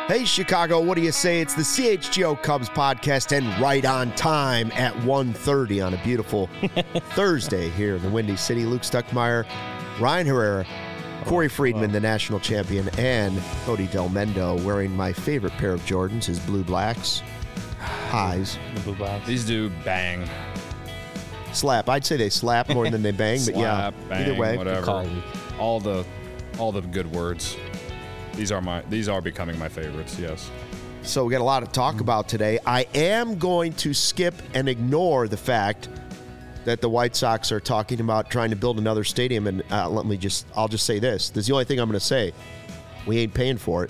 Hey, Chicago, what do you say? It's the CHGO Cubs podcast and right on time at 1:30 on a beautiful Thursday here in the Windy City. Luke Stuckmeyer, Ryan Herrera, Corey Friedman, the national champion, and Cody Del Mendo wearing my favorite pair of Jordans, his blue blacks. Highs. The blue blacks. These do bang. Slap. I'd say they slap more than they bang, but yeah, bang, either way. whatever. All the good words. These are becoming my favorites, yes. So we got a lot to talk about today. I am going to skip and ignore the fact that the White Sox are talking about trying to build another stadium, and I'll just say this. This is the only thing I'm going to say. We ain't paying for it.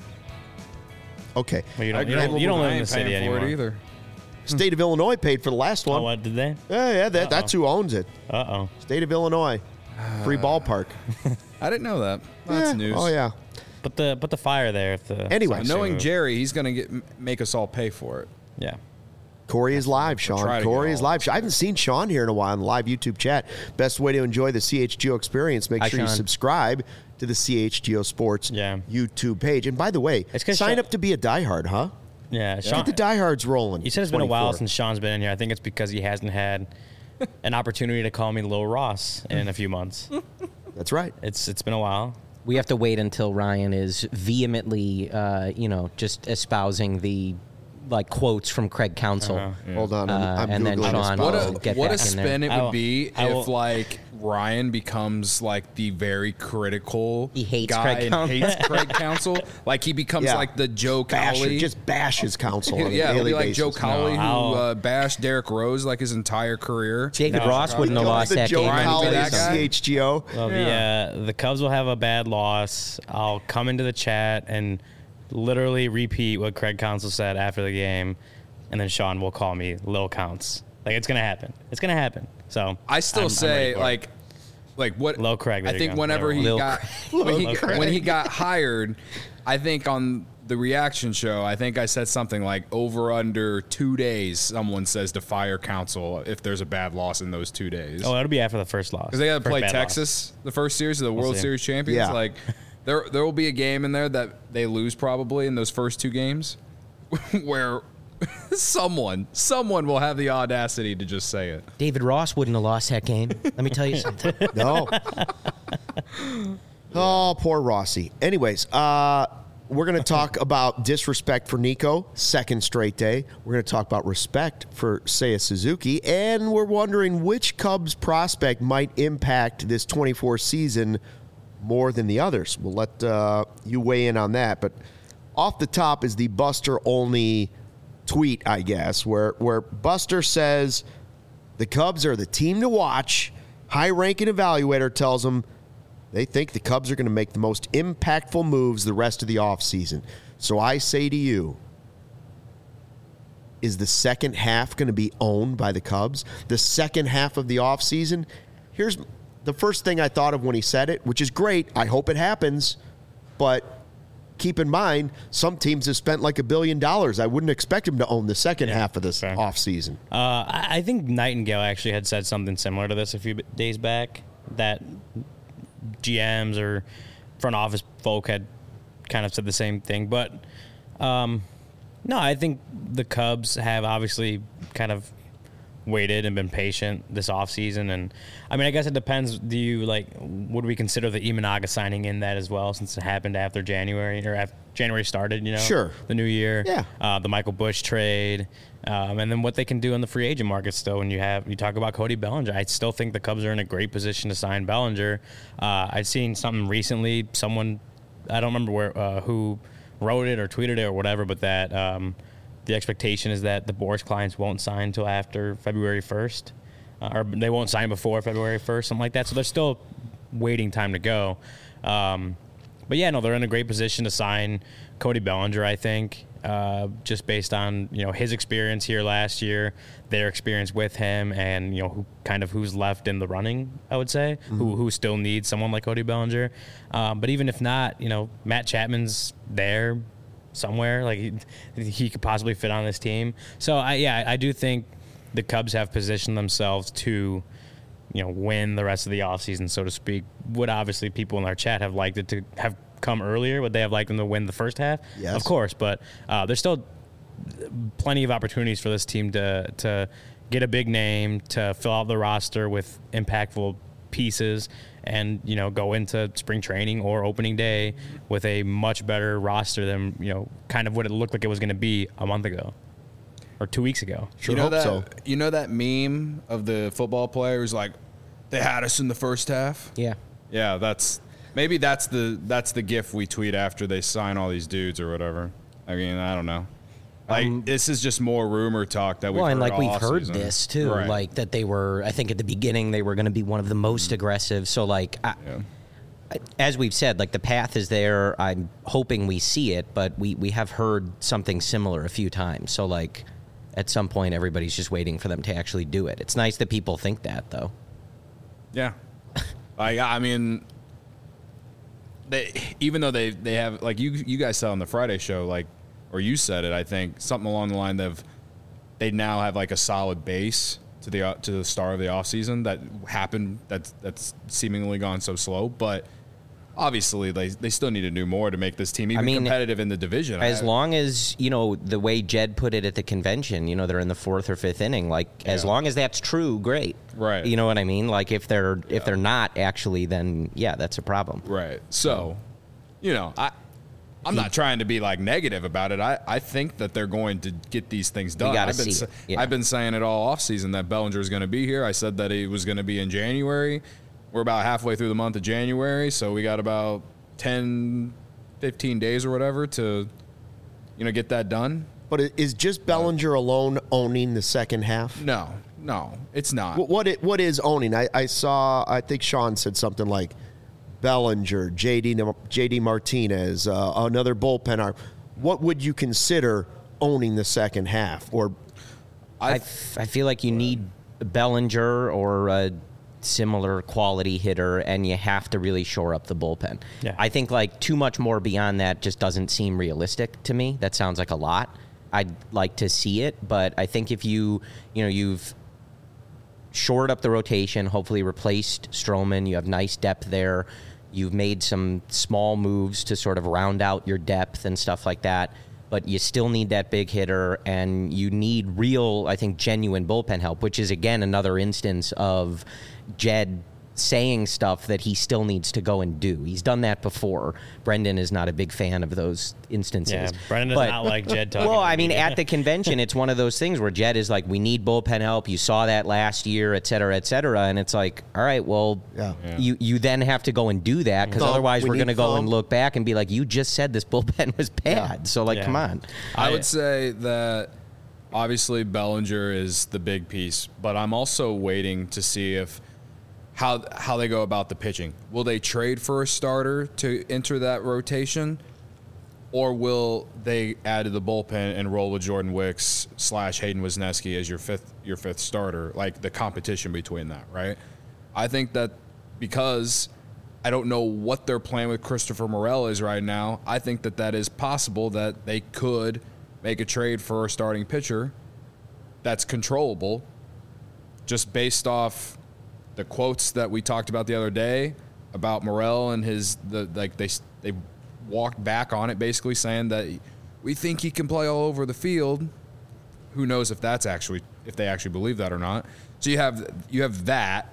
Okay. Well, you don't live in the city anymore. For it either. State of Illinois paid for the last one. Oh, what, did they? Yeah, that's who owns it. Uh-oh. State of Illinois. Free ballpark. I didn't know that. That's news. Oh, yeah. Put the fire there. If the Anyway. Knowing Jerry, he's going to make us all pay for it. Yeah. Corey is live, Sean. Corey is live. I haven't seen Sean here in a while in the live YouTube chat. Best way to enjoy the CHGO experience, make sure you subscribe to the CHGO Sports YouTube page. And by the way, sign up to be a diehard, huh? Yeah. Sean, get the diehards rolling. You said it's been a while since Sean's been in here. I think it's because he hasn't had an opportunity to call me Lil Ross in a few months. That's right. It's been a while. We have to wait until Ryan is vehemently, just espousing the quotes from Craig Counsell. Hold on, I'm and then Sean will get what back a spin in there. it would be if Ryan becomes the very critical he hates guy Craig and Counsell. hates Craig Counsell. He becomes the Joe Cowley. Just bash his counsel on a he'll daily be like basis. Joe Cowley who bashed Derrick Rose his entire career. David Ross wouldn't have lost that Joe game. Cowley that guy? CHGO. Well, the Cubs will have a bad loss. I'll come into the chat and literally repeat what Craig Counsell said after the game, and then Sean will call me Lil Counts. It's gonna happen. It's gonna happen. So I still say what Lil Craig. I think whenever he got when he got hired, I think on the reaction show, I think I said something over under 2 days. Someone says to fire Counsell if there's a bad loss in those 2 days. Oh, it'll be after the first loss because they got to play Texas the first series of the World Series champions. Yeah. There will be a game in there that they lose probably in those first two games, where someone will have the audacity to just say it. David Ross wouldn't have lost that game. Let me tell you something. No. Oh, poor Rossi. Anyways, we're going to talk about disrespect for Nico, second straight day. We're going to talk about respect for Seiya Suzuki, and we're wondering which Cubs prospect might impact this 24 season more than the others. We'll let you weigh in on that. But off the top is the Buster-only tweet, I guess, where Buster says the Cubs are the team to watch. High-ranking evaluator tells them they think the Cubs are going to make the most impactful moves the rest of the offseason. So I say to you, is the second half going to be owned by the Cubs? The second half of the offseason? Here's the first thing I thought of when he said it, which is great. I hope it happens. But keep in mind, some teams have spent $1 billion. I wouldn't expect him to own the second half of this offseason. I think Nightingale actually had said something similar to this a few days back, that GMs or front office folk had kind of said the same thing. But, no, I think the Cubs have obviously kind of waited and been patient this offseason. And, I guess it depends. Would we consider the Imanaga signing in that as well, since it happened after January, or after January started, Sure. The new year. Yeah. The Michael Busch trade. And then what they can do in the free agent market still. When you talk about Cody Bellinger, I still think the Cubs are in a great position to sign Bellinger. I'd seen something recently, someone, I don't remember who wrote it or tweeted it or whatever, but that the expectation is that the Boris clients won't sign until after February 1st, or they won't sign before February 1st, something like that. So there's still waiting time to go. But yeah, no, they're in a great position to sign Cody Bellinger, I think, just based on, his experience here last year, their experience with him, and, who's left in the running, I would say, who still needs someone like Cody Bellinger. But even if not, Matt Chapman's there somewhere. He could possibly fit on this team. So, I do think the Cubs have positioned themselves to, win the rest of the offseason, so to speak. Would obviously people in our chat have liked it to have come earlier? Would they have liked them to win the first half? Yes. Of course, but there's still plenty of opportunities for this team to get a big name, to fill out the roster with impactful pieces, and go into spring training or opening day with a much better roster than kind of what it looked like it was going to be a month ago or 2 weeks ago. Sure hope so. You know that meme of the football players like they had us in the first half? Yeah. Yeah, that's the gif we tweet after they sign all these dudes or whatever. I mean, I don't know. Like this is just more rumor talk that we've heard all we've heard offseason. this too, Right. like that they were. I think at the beginning they were going to be one of the most aggressive. So as we've said, like the path is there. I'm hoping we see it, but we have heard something similar a few times. So like at some point everybody's just waiting for them to actually do it. It's nice that people think that though. Yeah. I mean, even though they have, like you guys said on the Friday show, like, or you said it, I think, something along the line of they now have like a solid base to the start of the offseason that happened that's seemingly gone so slow. But obviously they still need to do more to make this team even competitive in the division. As long as, the way Jed put it at the convention, they're in the 4th or 5th inning, like as long as that's true, great. Right. You know what I mean? Like if they're not actually, then yeah, that's a problem. Right. So, I'm not trying to be like negative about it. I think that they're going to get these things done. I've been saying it all offseason that Bellinger is going to be here. I said that he was going to be in January. We're about halfway through the month of January, so we got about 10, 15 days or whatever to, get that done. But is just Bellinger alone owning the second half? No, it's not. What is owning? I think Sean said something like Bellinger, JD Martinez, another bullpen arm. What would you consider owning the second half? Or I feel like you need Bellinger or a similar quality hitter, and you have to really shore up the bullpen. Yeah. I think like too much more beyond that just doesn't seem realistic to me. That sounds like a lot. I'd like to see it, but I think if you've shored up the rotation, hopefully replaced Stroman, you have nice depth there. You've made some small moves to sort of round out your depth and stuff like that, but you still need that big hitter, and you need real, I think, genuine bullpen help, which is, again, another instance of Jed saying stuff that he still needs to go and do. He's done that before. Brendan is not a big fan of those instances. Yeah, Brendan does not like Jed talking. Well, I mean, at the convention, it's one of those things where Jed is like, we need bullpen help. You saw that last year, et cetera, and it's like, all right, well, you then have to go and do that, because otherwise we're going to go and look back and be like, you just said this bullpen was bad. Yeah. So, like, come on. I would say that obviously Bellinger is the big piece, but I'm also waiting to see if how they go about the pitching. Will they trade for a starter to enter that rotation, or will they add to the bullpen and roll with Jordan Wicks / Hayden Wesneski as your fifth starter, like the competition between that, right? I think that because I don't know what their plan with Christopher Morel is right now, I think that is possible that they could make a trade for a starting pitcher that's controllable, just based off the quotes that we talked about the other day about Morel and they walked back on it, basically saying that we think he can play all over the field. Who knows if they actually believe that or not. So you have that,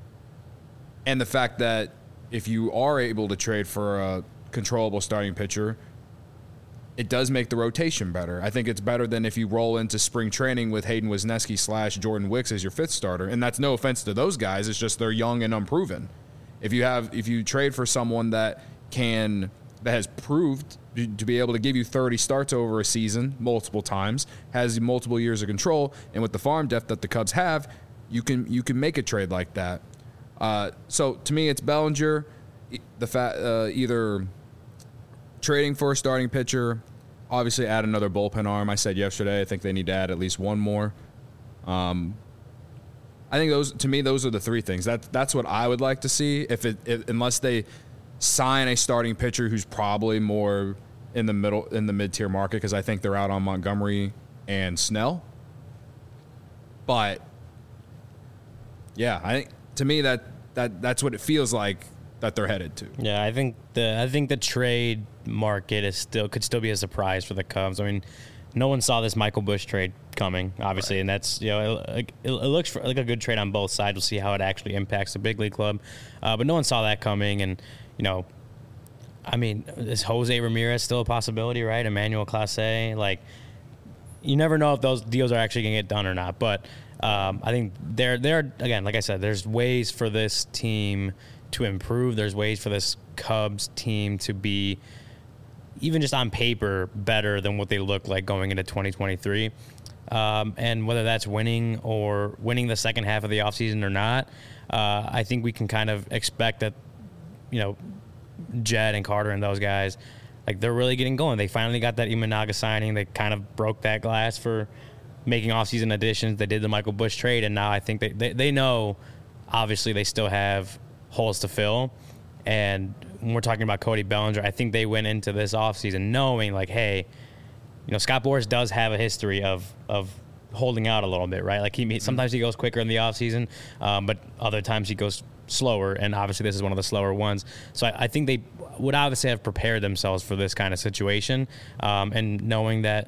and the fact that if you are able to trade for a controllable starting pitcher, it does make the rotation better. I think it's better than if you roll into spring training with Hayden Wesneski / Jordan Wicks as your fifth starter. And that's no offense to those guys. It's just they're young and unproven. If you trade for someone that has proved to be able to give you 30 starts over a season multiple times, has multiple years of control, and with the farm depth that the Cubs have, you can make a trade like that. So to me, it's Bellinger, either trading for a starting pitcher, obviously add another bullpen arm. I said yesterday I think they need to add at least one more. I think those are the three things. That's what I would like to see. Unless they sign a starting pitcher who's probably more in the mid-tier market, because I think they're out on Montgomery and Snell. But yeah, I think to me that's what it feels like that they're headed to. Yeah, I think the trade market could still be a surprise for the Cubs. I mean, no one saw this Michael Busch trade coming, obviously, and that's it looks like a good trade on both sides. We'll see how it actually impacts the big league club, but no one saw that coming, and I mean, is Jose Ramirez still a possibility, right? Emmanuel Clase, like, you never know if those deals are actually going to get done or not, but I think there again, like I said, there's ways for this team to improve. There's ways for this Cubs team to be, even just on paper, better than what they look like going into 2023. And whether that's winning the second half of the offseason or not, I think we can kind of expect that, Jed and Carter and those guys, like, they're really getting going. They finally got that Imanaga signing. They kind of broke that glass for making offseason additions. They did the Michael Busch trade, and now I think they know, obviously, they still have holes to fill. And when we're talking about Cody Bellinger, I think they went into this offseason knowing, like, hey, Scott Boras does have a history of holding out a little bit, right? Like, sometimes he goes quicker in the offseason, but other times he goes slower, and obviously this is one of the slower ones. So I think they would obviously have prepared themselves for this kind of situation, and knowing that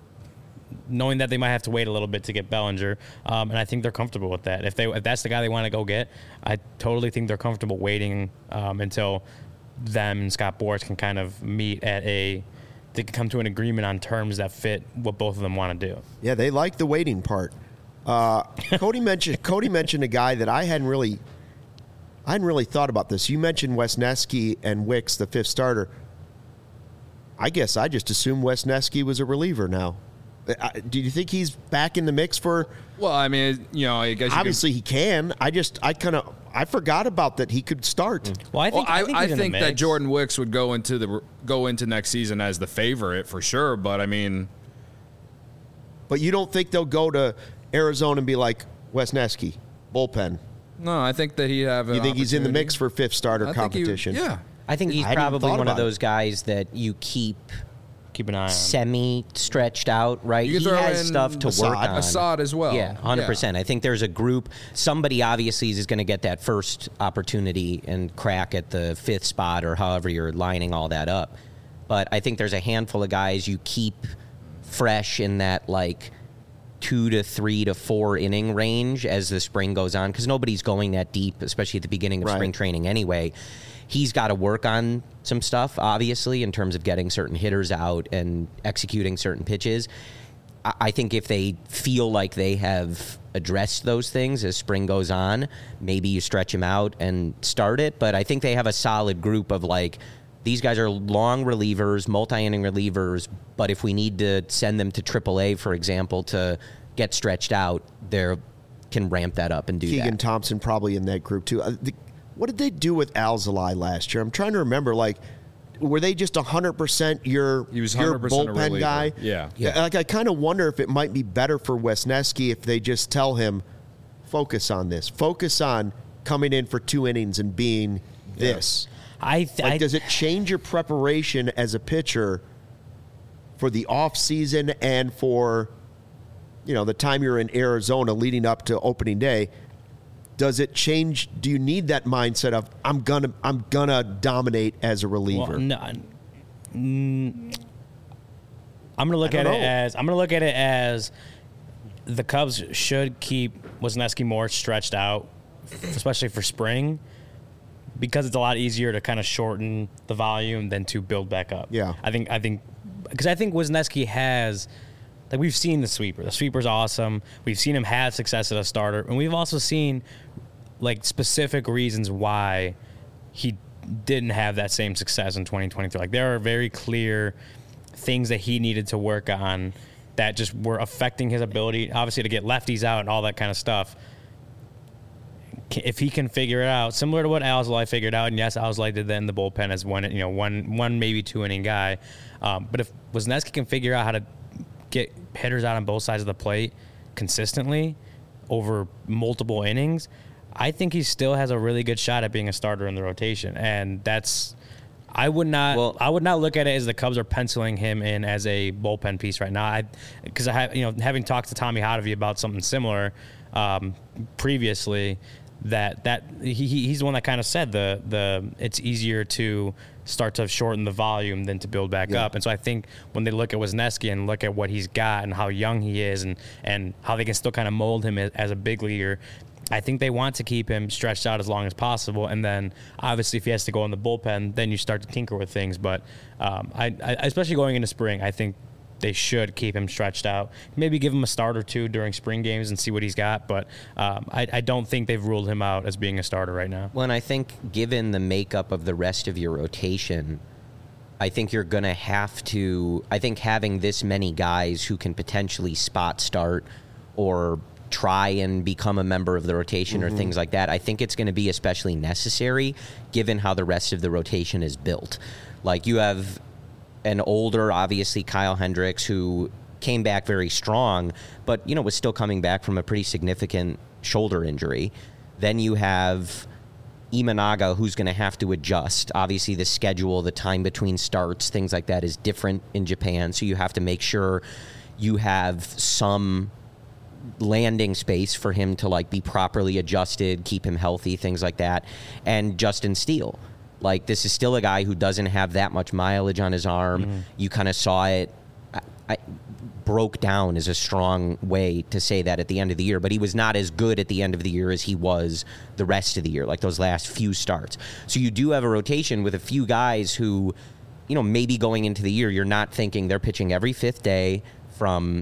they might have to wait a little bit to get Bellinger, and I think they're comfortable with that. If that's the guy they want to go get, I totally think they're comfortable waiting until them and Scott Boras can kind of meet they can come to an agreement on terms that fit what both of them want to do. Yeah, they like the waiting part. Cody mentioned a guy that I hadn't really thought about this. You mentioned Wesneski and Wicks, the fifth starter. I guess I just assumed Wesneski was a reliever now. Do you think he's back in the mix for? Well, I mean, I guess obviously he can. I forgot about that he could start. Well, I think that Jordan Wicks would go into next season as the favorite for sure. But I mean, but you don't think they'll go to Arizona and be like, Wesneski, bullpen? No, I think that he'd have. You think he's in the mix for fifth starter competition? Yeah, I think he's probably one of those guys that you keep an eye on. Semi-stretched out, right? He has stuff to work on. Assad as well. Yeah, 100%. I think there's a group. Somebody obviously is going to get that first opportunity and crack at the fifth spot or however you're lining all that up. But I think there's a handful of guys you keep fresh in that, like, 2 to 3 to 4 inning range as the spring goes on, because nobody's going that deep, especially at the beginning of spring training anyway. He's got to work on some stuff, obviously, in terms of getting certain hitters out and executing certain pitches. I think if they feel like they have addressed those things as spring goes on, maybe you stretch him out and start it. But I think they have a solid group of, like, these guys are long relievers, multi-inning relievers, but if we need to send them to AAA, for example, to get stretched out, they can ramp that up and do that. Keegan Thompson probably in that group, too. What did they do with Alzolay last year? I'm trying to remember, like, were they just 100% your bullpen guy? Yeah. Like, I kind of wonder if it might be better for Wesneski if they just tell him, focus on this. Focus on coming in for 2 innings and being this. Does it change your preparation as a pitcher for the off season and for, the time you're in Arizona leading up to opening day? Does it change? Do you need that mindset of I'm gonna dominate as a reliever? Well, no, I'm gonna look at it as the Cubs should keep Wesneski more stretched out, especially for spring, because it's a lot easier to kind of shorten the volume than to build back up. Yeah, I think Wesneski has. Like, we've seen the sweeper. The sweeper's awesome. We've seen him have success as a starter. And we've also seen, like, specific reasons why he didn't have that same success in 2023. Like, there are very clear things that he needed to work on that just were affecting his ability, obviously, to get lefties out and all that kind of stuff. If he can figure it out, similar to what Alzolay figured out, and yes, Alzolay did that in the bullpen as one maybe 2 inning guy. But if Wesneski can figure out how to get hitters out on both sides of the plate consistently over multiple innings, I think he still has a really good shot at being a starter in the rotation. And I would not look at it as the Cubs are penciling him in as a bullpen piece right now. Because having talked to Tommy Hotovy about something similar previously, he's the one that kind of said it's easier to start to shorten the volume than to build back up. And so I think when they look at Wisniewski and look at what he's got and how young he is and how they can still kind of mold him as a big leaguer, I think they want to keep him stretched out as long as possible. And then obviously if he has to go in the bullpen, then you start to tinker with things. But I especially going into spring, I think they should keep him stretched out. Maybe give him a start or two during spring games and see what he's got. But I don't think they've ruled him out as being a starter right now. Well, and I think given the makeup of the rest of your rotation, I think you're going to have to – I think having this many guys who can potentially spot start or try and become a member of the rotation or things like that, I think it's going to be especially necessary given how the rest of the rotation is built. Like you have – an older, obviously, Kyle Hendricks, who came back very strong, but, was still coming back from a pretty significant shoulder injury. Then you have Imanaga, who's going to have to adjust. Obviously, the schedule, the time between starts, things like that is different in Japan, so you have to make sure you have some landing space for him to, be properly adjusted, keep him healthy, things like that. And Justin Steele. This is still a guy who doesn't have that much mileage on his arm. You kind of saw it. I broke down is a strong way to say that at the end of the year, but he was not as good at the end of the year as he was the rest of the year, those last few starts. So you do have a rotation with a few guys who, maybe going into the year, you're not thinking they're pitching every fifth day from,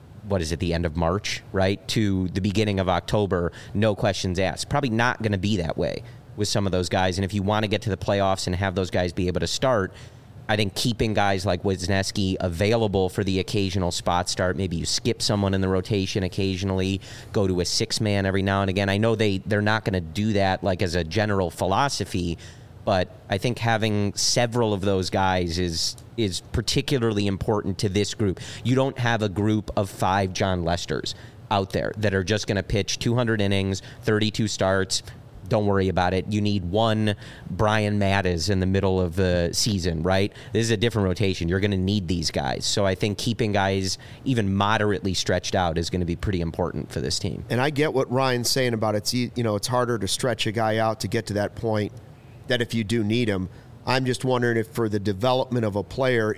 the end of March, right, to the beginning of October, no questions asked. Probably not going to be that way with some of those guys. And if you want to get to the playoffs and have those guys be able to start, I think keeping guys like Wisniewski available for the occasional spot start, maybe you skip someone in the rotation occasionally, go to a six-man every now and again. I know they're not going to do that as a general philosophy, but I think having several of those guys is particularly important to this group. You don't have a group of 5 John Lesters out there that are just going to pitch 200 innings, 32 starts. Don't worry about it. You need one Brian Mattis in the middle of the season, right? This is a different rotation. You're going to need these guys. So I think keeping guys even moderately stretched out is going to be pretty important for this team. And I get what Ryan's saying about it's harder to stretch a guy out to get to that point that if you do need him. I'm just wondering if for the development of a player,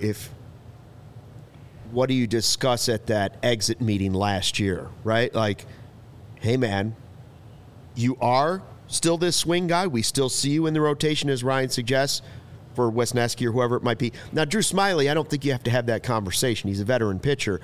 what do you discuss at that exit meeting last year, right? Hey, man, you are still this swing guy. We still see you in the rotation, as Ryan suggests, for Wisniewski or whoever it might be. Now, Drew Smyly, I don't think you have to have that conversation. He's a veteran pitcher.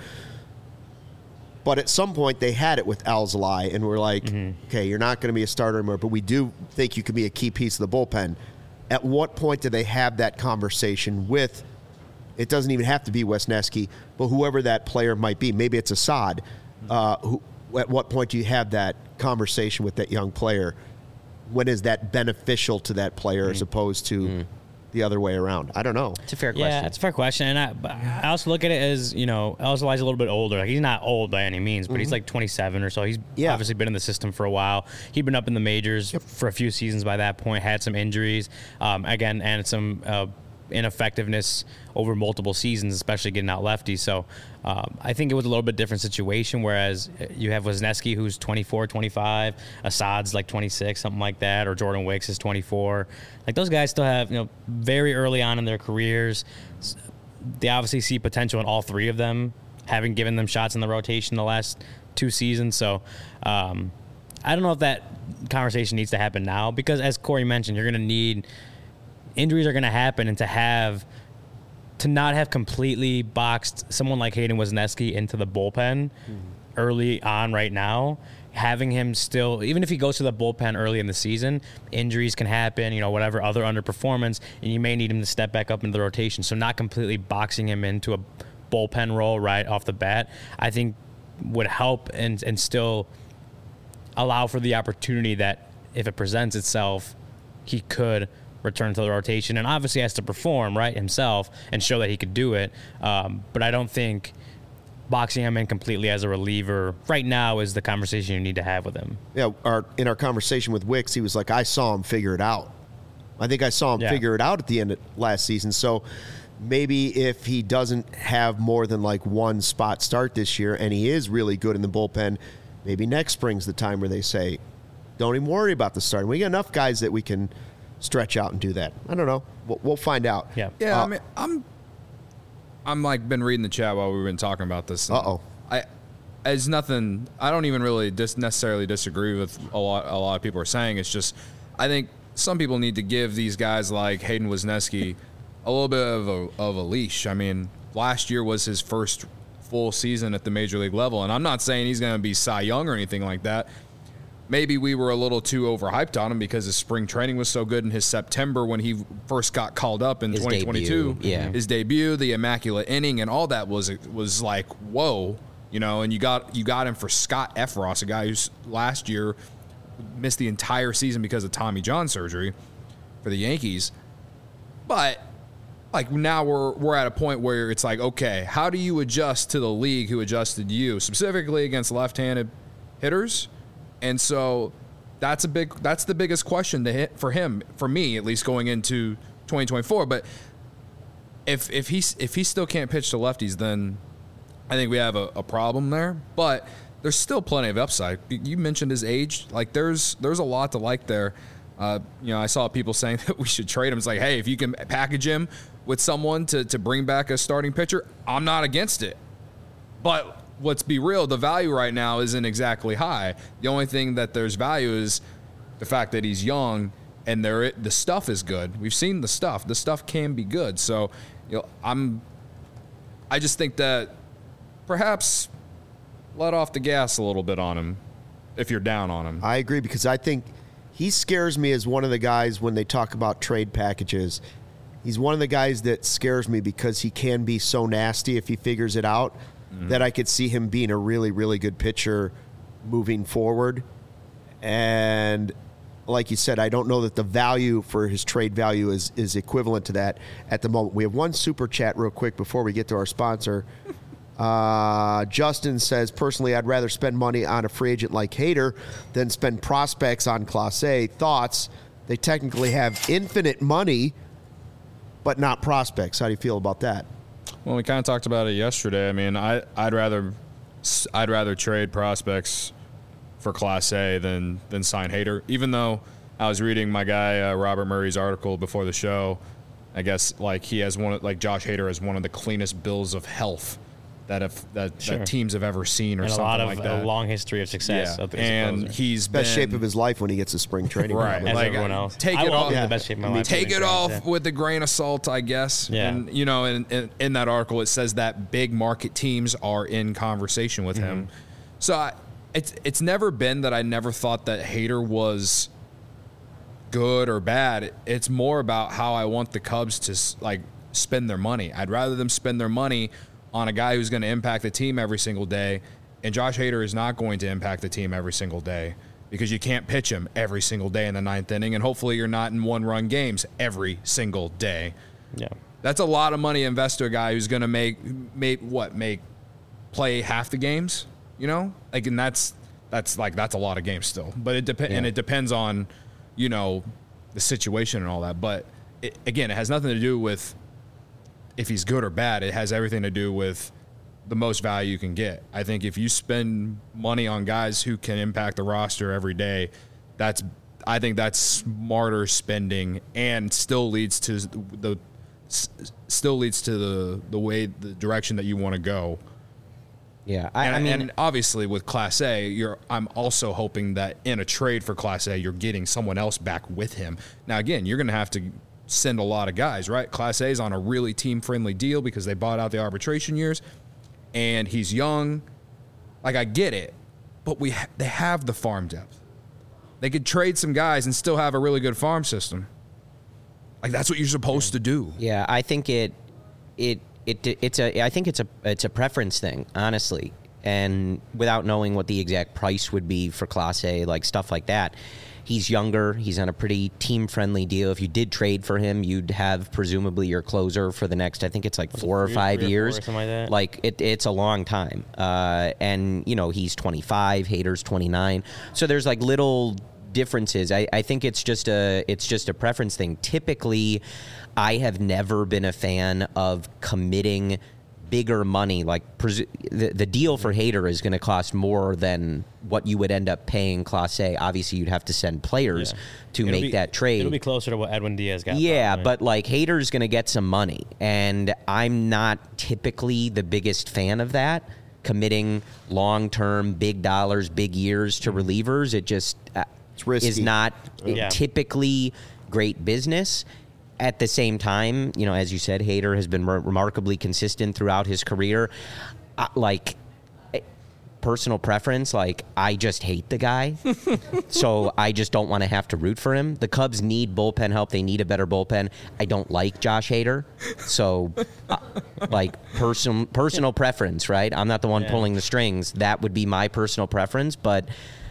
But at some point, they had it with Alzolay, and we're okay, you're not going to be a starter anymore, but we do think you can be a key piece of the bullpen. At what point do they have that conversation with, it doesn't even have to be Wisniewski, but whoever that player might be? Maybe it's Assad. At what point do you have that conversation with that young player? When is that beneficial to that player as opposed to the other way around? I don't know. It's a fair question. Yeah, it's a fair question. And I also look at it as, Alzolay's a little bit older. He's not old by any means, but he's 27 or so. He's obviously been in the system for a while. He'd been up in the majors for a few seasons by that point, had some injuries, and some ineffectiveness over multiple seasons, especially getting out lefties. So I think it was a little bit different situation, whereas you have Wisniewski, who's 24, 25, Assad's 26, something like that, or Jordan Wicks is 24. Those guys still have, very early on in their careers, they obviously see potential in all three of them, having given them shots in the rotation the last 2 seasons. So I don't know if that conversation needs to happen now, because as Corey mentioned, you're going to need injuries are going to happen, and to not have completely boxed someone like Hayden Wisniewski into the bullpen early on right now, having him still, even if he goes to the bullpen early in the season, injuries can happen, whatever other underperformance, and you may need him to step back up into the rotation. So not completely boxing him into a bullpen role right off the bat, I think would help and still allow for the opportunity that if it presents itself, he could return to the rotation, and obviously has to perform right himself and show that he could do it. But I don't think boxing him in completely as a reliever right now is the conversation you need to have with him. Yeah, in our conversation with Wicks, he was like, I saw him figure it out. I think I saw him figure it out at the end of last season. So maybe if he doesn't have more than one spot start this year and he is really good in the bullpen, maybe next spring's the time where they say, don't even worry about the starting. We got enough guys that we can stretch out and do that. I don't know. We'll find out. Yeah. Yeah, I mean, I'm like been reading the chat while we've been talking about this. It's nothing. I don't even really necessarily disagree with a lot of people are saying. It's just I think some people need to give these guys like Hayden Wesneski a little bit of a leash. I mean, last year was his first full season at the major league level, and I'm not saying he's going to be Cy Young or anything like that. Maybe we were a little too overhyped on him because his spring training was so good in his September when he first got called up in 2022. His debut, the immaculate inning, and all that was like, whoa, and you got him for Scott Effross, a guy who's last year missed the entire season because of Tommy John surgery for the Yankees. But like now we're at a point where it's like, okay, how do you adjust to the league who adjusted you, specifically against left-handed hitters? And so that's the biggest question to hit for him, for me at least, going into 2024. But if he still can't pitch to lefties, then I think we have a problem there. But there's still plenty of upside. You mentioned his age. Like there's a lot to like there. I saw people saying that we should trade him. It's like, hey, if you can package him with someone to bring back a starting pitcher, I'm not against it. But let's be real, the value right now isn't exactly high. The only thing that there's value is the fact that he's young and the stuff is good. We've seen the stuff. The stuff can be good. So, I just think that perhaps let off the gas a little bit on him if you're down on him. I agree, because I think he scares me as one of the guys when they talk about trade packages. He's one of the guys that scares me because he can be so nasty if he figures it out. That I could see him being a really, really good pitcher moving forward. And like you said, I don't know that the value for his trade value is equivalent to that at the moment. We have one super chat real quick before we get to our sponsor. Justin says, personally, I'd rather spend money on a free agent like Hader than spend prospects on Clase A. Thoughts? They technically have infinite money, but not prospects. How do you feel about that? Well, we kind of talked about it yesterday. I mean, I'd rather trade prospects for Class A than sign Hader. Even though I was reading my guy Robert Murray's article before the show, I guess like he has Josh Hader has one of the cleanest bills of health that teams have ever seen, or and something like that. A long history of success. Yeah. And he's best shape of his life when he gets to spring training. Right, as like everyone else. Take it off. The best shape of my life. Take it off with a grain of salt, I guess. Yeah. And in that article, it says that big market teams are in conversation with him. So it's never been that I never thought that Hader was good or bad. It's more about how I want the Cubs to like spend their money. I'd rather them spend their money on a guy who's going to impact the team every single day, and Josh Hader is not going to impact the team every single day because you can't pitch him every single day in the ninth inning, and hopefully you're not in one-run games every single day. Yeah, that's a lot of money to invest to a guy who's going to play half the games, and that's a lot of games still. But it depends, and it depends on the situation and all that. But it has nothing to do with if he's good or bad. It has everything to do with the most value you can get. I think if you spend money on guys who can impact the roster every day, I think that's smarter spending, and still leads to the direction that you want to go. Yeah, and obviously with Class A, I'm also hoping that in a trade for Class A, you're getting someone else back with him. Now, again, you're going to have to send a lot of guys, right? Class A is on a really team-friendly deal because they bought out the arbitration years, and he's young. Like, I get it, but they have the farm depth. They could trade some guys and still have a really good farm system. Like, that's what you're supposed to do. Yeah, I think it's a preference thing, honestly. And without knowing what the exact price would be for Class A, like stuff like that. He's younger. He's on a pretty team-friendly deal. If you did trade for him, you'd have presumably your closer for the next, I think it's like 4 or 5 years. Or something like that. Like, it's a long time. And, he's 25, Hader's 29. So there's like little differences. I think it's just a preference thing. Typically, I have never been a fan of committing bigger money, like the deal for Hader is going to cost more than what you would end up paying Clase. Obviously, you'd have to send players to make that trade. It'll be closer to what Edwin Diaz got. Yeah, probably. but like Hader's going to get some money, and I'm not typically the biggest fan of that. Committing long-term, big dollars, big years to relievers, it just it's risky. Is not typically great business. At the same time, you know, as you said, Hader has been remarkably consistent throughout his career. Personal preference, like, I just hate the guy. So I just don't want to have to root for him. The Cubs need bullpen help. They need a better bullpen. I don't like Josh Hader. So, personal preference, right? I'm not the one pulling the strings. That would be my personal preference. But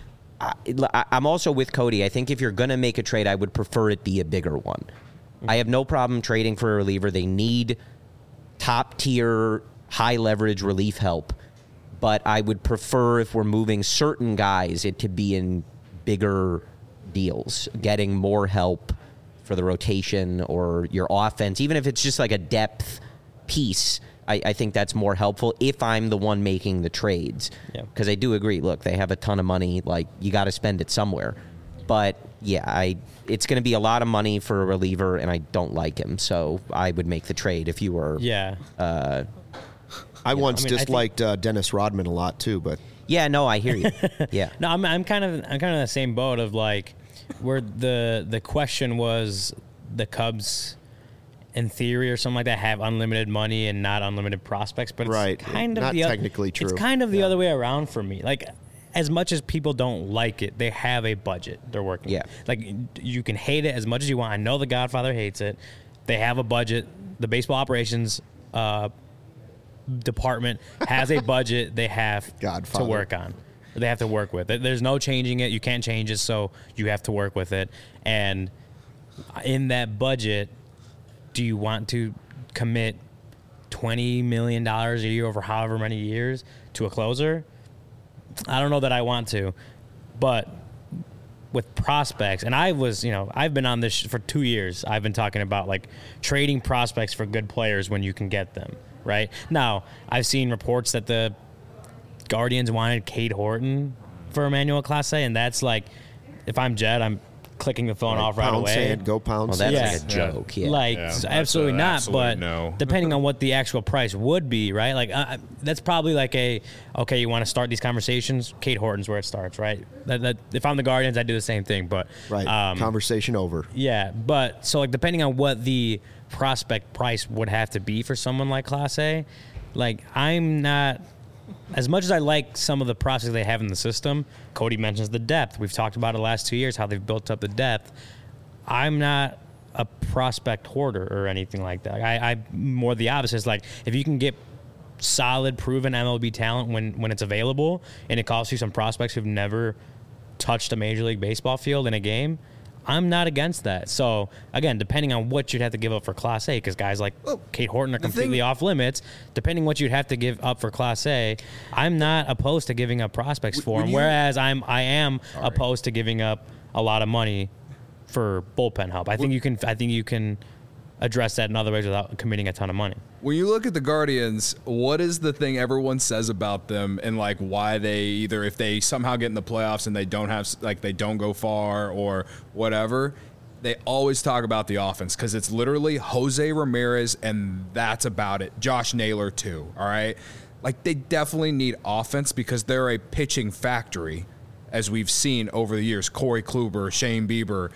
I'm also with Cody. I think if you're going to make a trade, I would prefer it be a bigger one. I have no problem trading for a reliever. They need top-tier, high-leverage relief help. But I would prefer, if we're moving certain guys, it to be in bigger deals, getting more help for the rotation or your offense. Even if it's just like a depth piece, I think that's more helpful if I'm the one making the trades. Because I do agree, look, they have a ton of money. Like, you got to spend it somewhere. But, yeah, it's going to be a lot of money for a reliever, and I don't like him. So I would make the trade if you were. Yeah. I disliked Dennis Rodman a lot too, but yeah, no, I hear you. Yeah. No, I'm kind of in the same boat of like where the question was the Cubs in theory or something like that have unlimited money and not unlimited prospects, but it's kind of not technically true. It's kind of the other way around for me. Like, as much as people don't like it, they have a budget they're working with. Like, you can hate it as much as you want. I know The Godfather hates it. They have a budget. The baseball operations department has a budget they have to work on. They have to work with it. There's no changing it. You can't change it, so you have to work with it. And in that budget, do you want to commit $20 million a year over however many years to a closer? I don't know that I want to. But with prospects, and I've been on this for 2 years. I've been talking about like trading prospects for good players when you can get them. Right now, I've seen reports that the Guardians wanted Cade Horton for Emmanuel Clase, and that's like, if I'm Jed, I'm clicking the phone off right away. Sand, go pound. Well, that's like a joke. Yeah. Absolutely not. But no. Depending on what the actual price would be, right? Like that's probably like you want to start these conversations. Cade Horton's where it starts, right? That if I'm the Guardians, I do the same thing. But conversation over. Yeah, but so like depending on what the prospect price would have to be for someone like Clase, like I'm not. As much as I like some of the prospects they have in the system, Cody mentions the depth. We've talked about it the last 2 years, how they've built up the depth. I'm not a prospect hoarder or anything like that. I'm more the opposite. It's like, if you can get solid, proven MLB talent when it's available, and it costs you some prospects who've never touched a Major League Baseball field in a game, I'm not against that. So, again, depending on what you'd have to give up for Clase, because guys like Cade Horton are completely off limits, depending what you'd have to give up for Clase, I'm not opposed to giving up prospects for him, whereas I am opposed to giving up a lot of money for bullpen help. I think you can address that in other ways without committing a ton of money. When you look at the Guardians, what is the thing everyone says about them, and like why they either, if they somehow get in the playoffs and they don't go far or whatever, they always talk about the offense, because it's literally Jose Ramirez and that's about it. Josh Naylor too. All right, like they definitely need offense because they're a pitching factory, as we've seen over the years. Corey Kluber, Shane Bieber.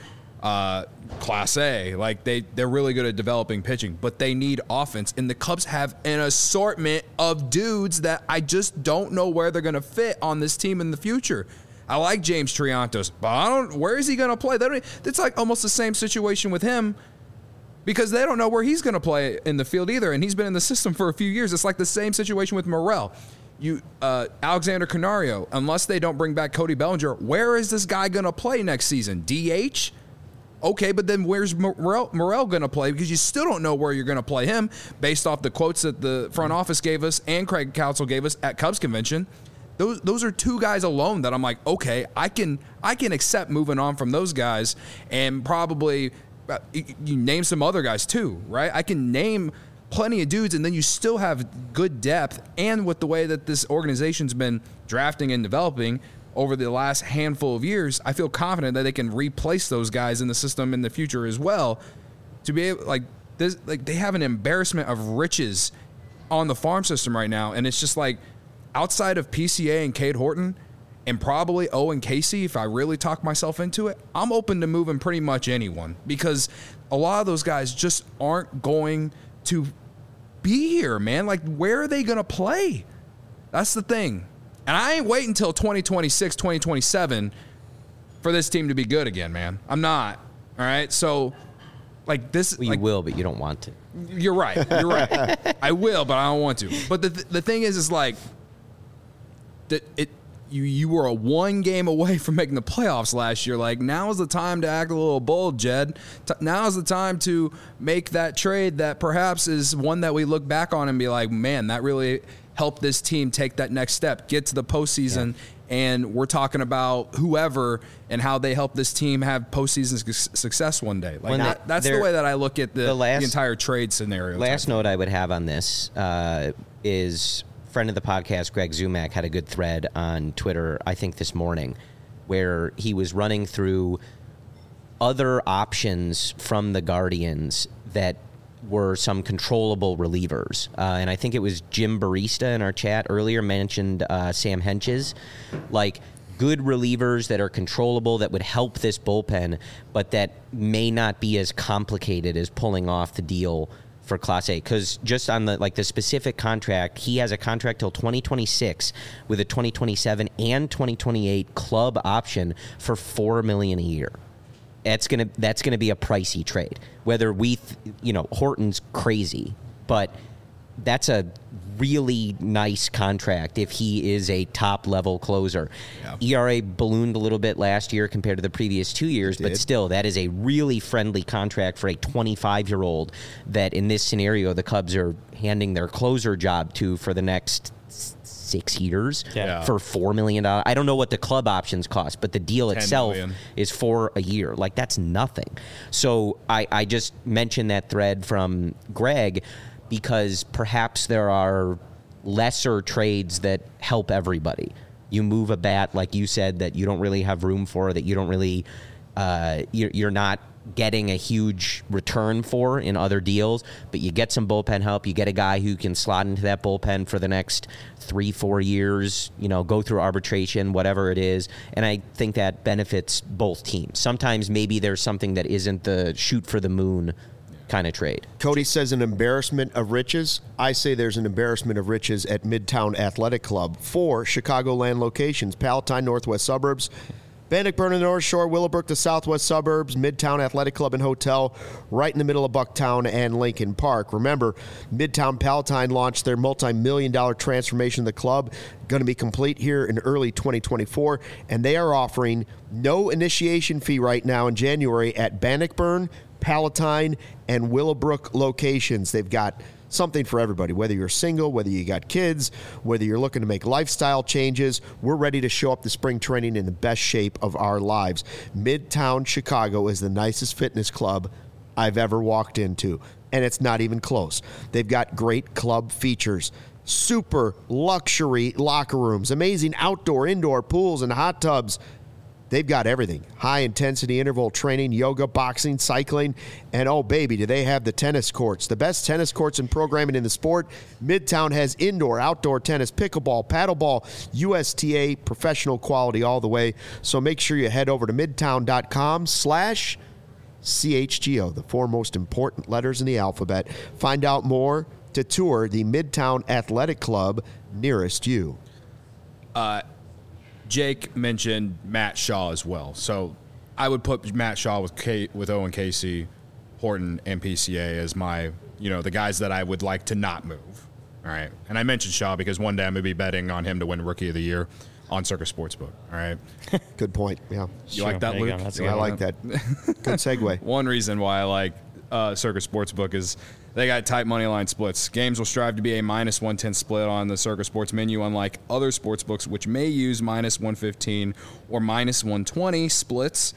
Clase, like they're really good at developing pitching, but they need offense, and the Cubs have an assortment of dudes that I just don't know where they're going to fit on this team in the future. I like James Triantos, but where is he going to play? It's like almost the same situation with him, because they don't know where he's going to play in the field either, and he's been in the system for a few years. It's like the same situation with Morel. Alexander Canario, unless they don't bring back Cody Bellinger, where is this guy going to play next season? DH? Okay, but then where's Morel going to play? Because you still don't know where you're going to play him based off the quotes that the front office gave us and Craig Counsell gave us at Cubs Convention. Those are two guys alone that I'm like, okay, I can accept moving on from those guys, and probably you name some other guys too, right? I can name plenty of dudes, and then you still have good depth. And with the way that this organization's been drafting and developing over the last handful of years, I feel confident that they can replace those guys in the system in the future as well. To be able, like this, like they have an embarrassment of riches on the farm system right now, and it's just like outside of PCA and Cade Horton, and probably Owen Casey, if I really talk myself into it, I'm open to moving pretty much anyone, because a lot of those guys just aren't going to be here, man. Like, where are they going to play? That's the thing. And I ain't waiting until 2026, 2027 for this team to be good again, man. I'm not. All right? So, like this. Well, you will, but you don't want to. You're right. You're right. I will, but I don't want to. But the thing is like, you were a one game away from making the playoffs last year. Like, now is the time to act a little bold, Jed. Now is the time to make that trade that perhaps is one that we look back on and be like, man, that really helped this team take that next step, get to the postseason. Yeah. And we're talking about whoever and how they help this team have postseason success one day. Like that's the way that I look at the entire trade scenario. Last note I would have on this is friend of the podcast, Greg Zumak, had a good thread on Twitter, I think this morning, where he was running through other options from the Guardians that were some controllable relievers. And I think it was Jim Barista in our chat earlier mentioned Sam Henches, like good relievers that are controllable that would help this bullpen, but that may not be as complicated as pulling off the deal for Class A. Because just on the specific contract, he has a contract till 2026 with a 2027 and 2028 club option for $4 million a year. That's gonna be a pricey trade. Whether Horton's crazy, but that's a really nice contract if he is a top level closer. Yeah. ERA ballooned a little bit last year compared to the previous 2 years, but still, that is a really friendly contract for a 25-year-old that in this scenario the Cubs are handing their closer job to for the next 6 years for $4 million. I don't know what the club options cost, but the deal itself is for a year. Like, that's nothing. So I just mentioned that thread from Greg because perhaps there are lesser trades that help everybody. You move a bat, like you said, that you don't really have room for, that you don't really, you're not getting a huge return for in other deals, but you get some bullpen help. You get a guy who can slot into that bullpen for the next 3-4 years, go through arbitration, whatever it is. And I think that benefits both teams. Sometimes maybe there's something that isn't the shoot for the moon kind of trade. Cody says an embarrassment of riches. I say there's an embarrassment of riches at Midtown Athletic Club. 4 Chicagoland locations: Palatine, northwest suburbs; Bannockburn in the North Shore; Willowbrook, the southwest suburbs; Midtown Athletic Club and Hotel, right in the middle of Bucktown and Lincoln Park. Remember, Midtown Palatine launched their multi-million-dollar transformation of the club, going to be complete here in early 2024, and they are offering no initiation fee right now in January at Bannockburn, Palatine, and Willowbrook locations. They've got something for everybody, whether you're single, whether you got kids, whether you're looking to make lifestyle changes. We're ready to show up to spring training in the best shape of our lives. Midtown Chicago is the nicest fitness club I've ever walked into, and it's not even close. They've got great club features, super luxury locker rooms, amazing outdoor, indoor pools and hot tubs. They've got everything. High-intensity interval training, yoga, boxing, cycling, and oh, baby, do they have the tennis courts. The best tennis courts and programming in the sport. Midtown has indoor, outdoor tennis, pickleball, paddleball, USTA, professional quality all the way. So make sure you head over to midtown.com/CHGO, the 4 most important letters in the alphabet. Find out more to tour the Midtown Athletic Club nearest you. Jake mentioned Matt Shaw as well. So I would put Matt Shaw with Owen Casey, Horton, and PCA as my, the guys that I would like to not move. All right. And I mentioned Shaw because one day I'm going to be betting on him to win Rookie of the Year on Circus Sportsbook. All right. Good point. Yeah. You like that, Luke? I like that. Good segue. One reason why I like Circus Sportsbook is they got tight money line splits. Games will strive to be a -110 split on the Circus Sports menu, unlike other sports books, which may use -115 or -120 splits.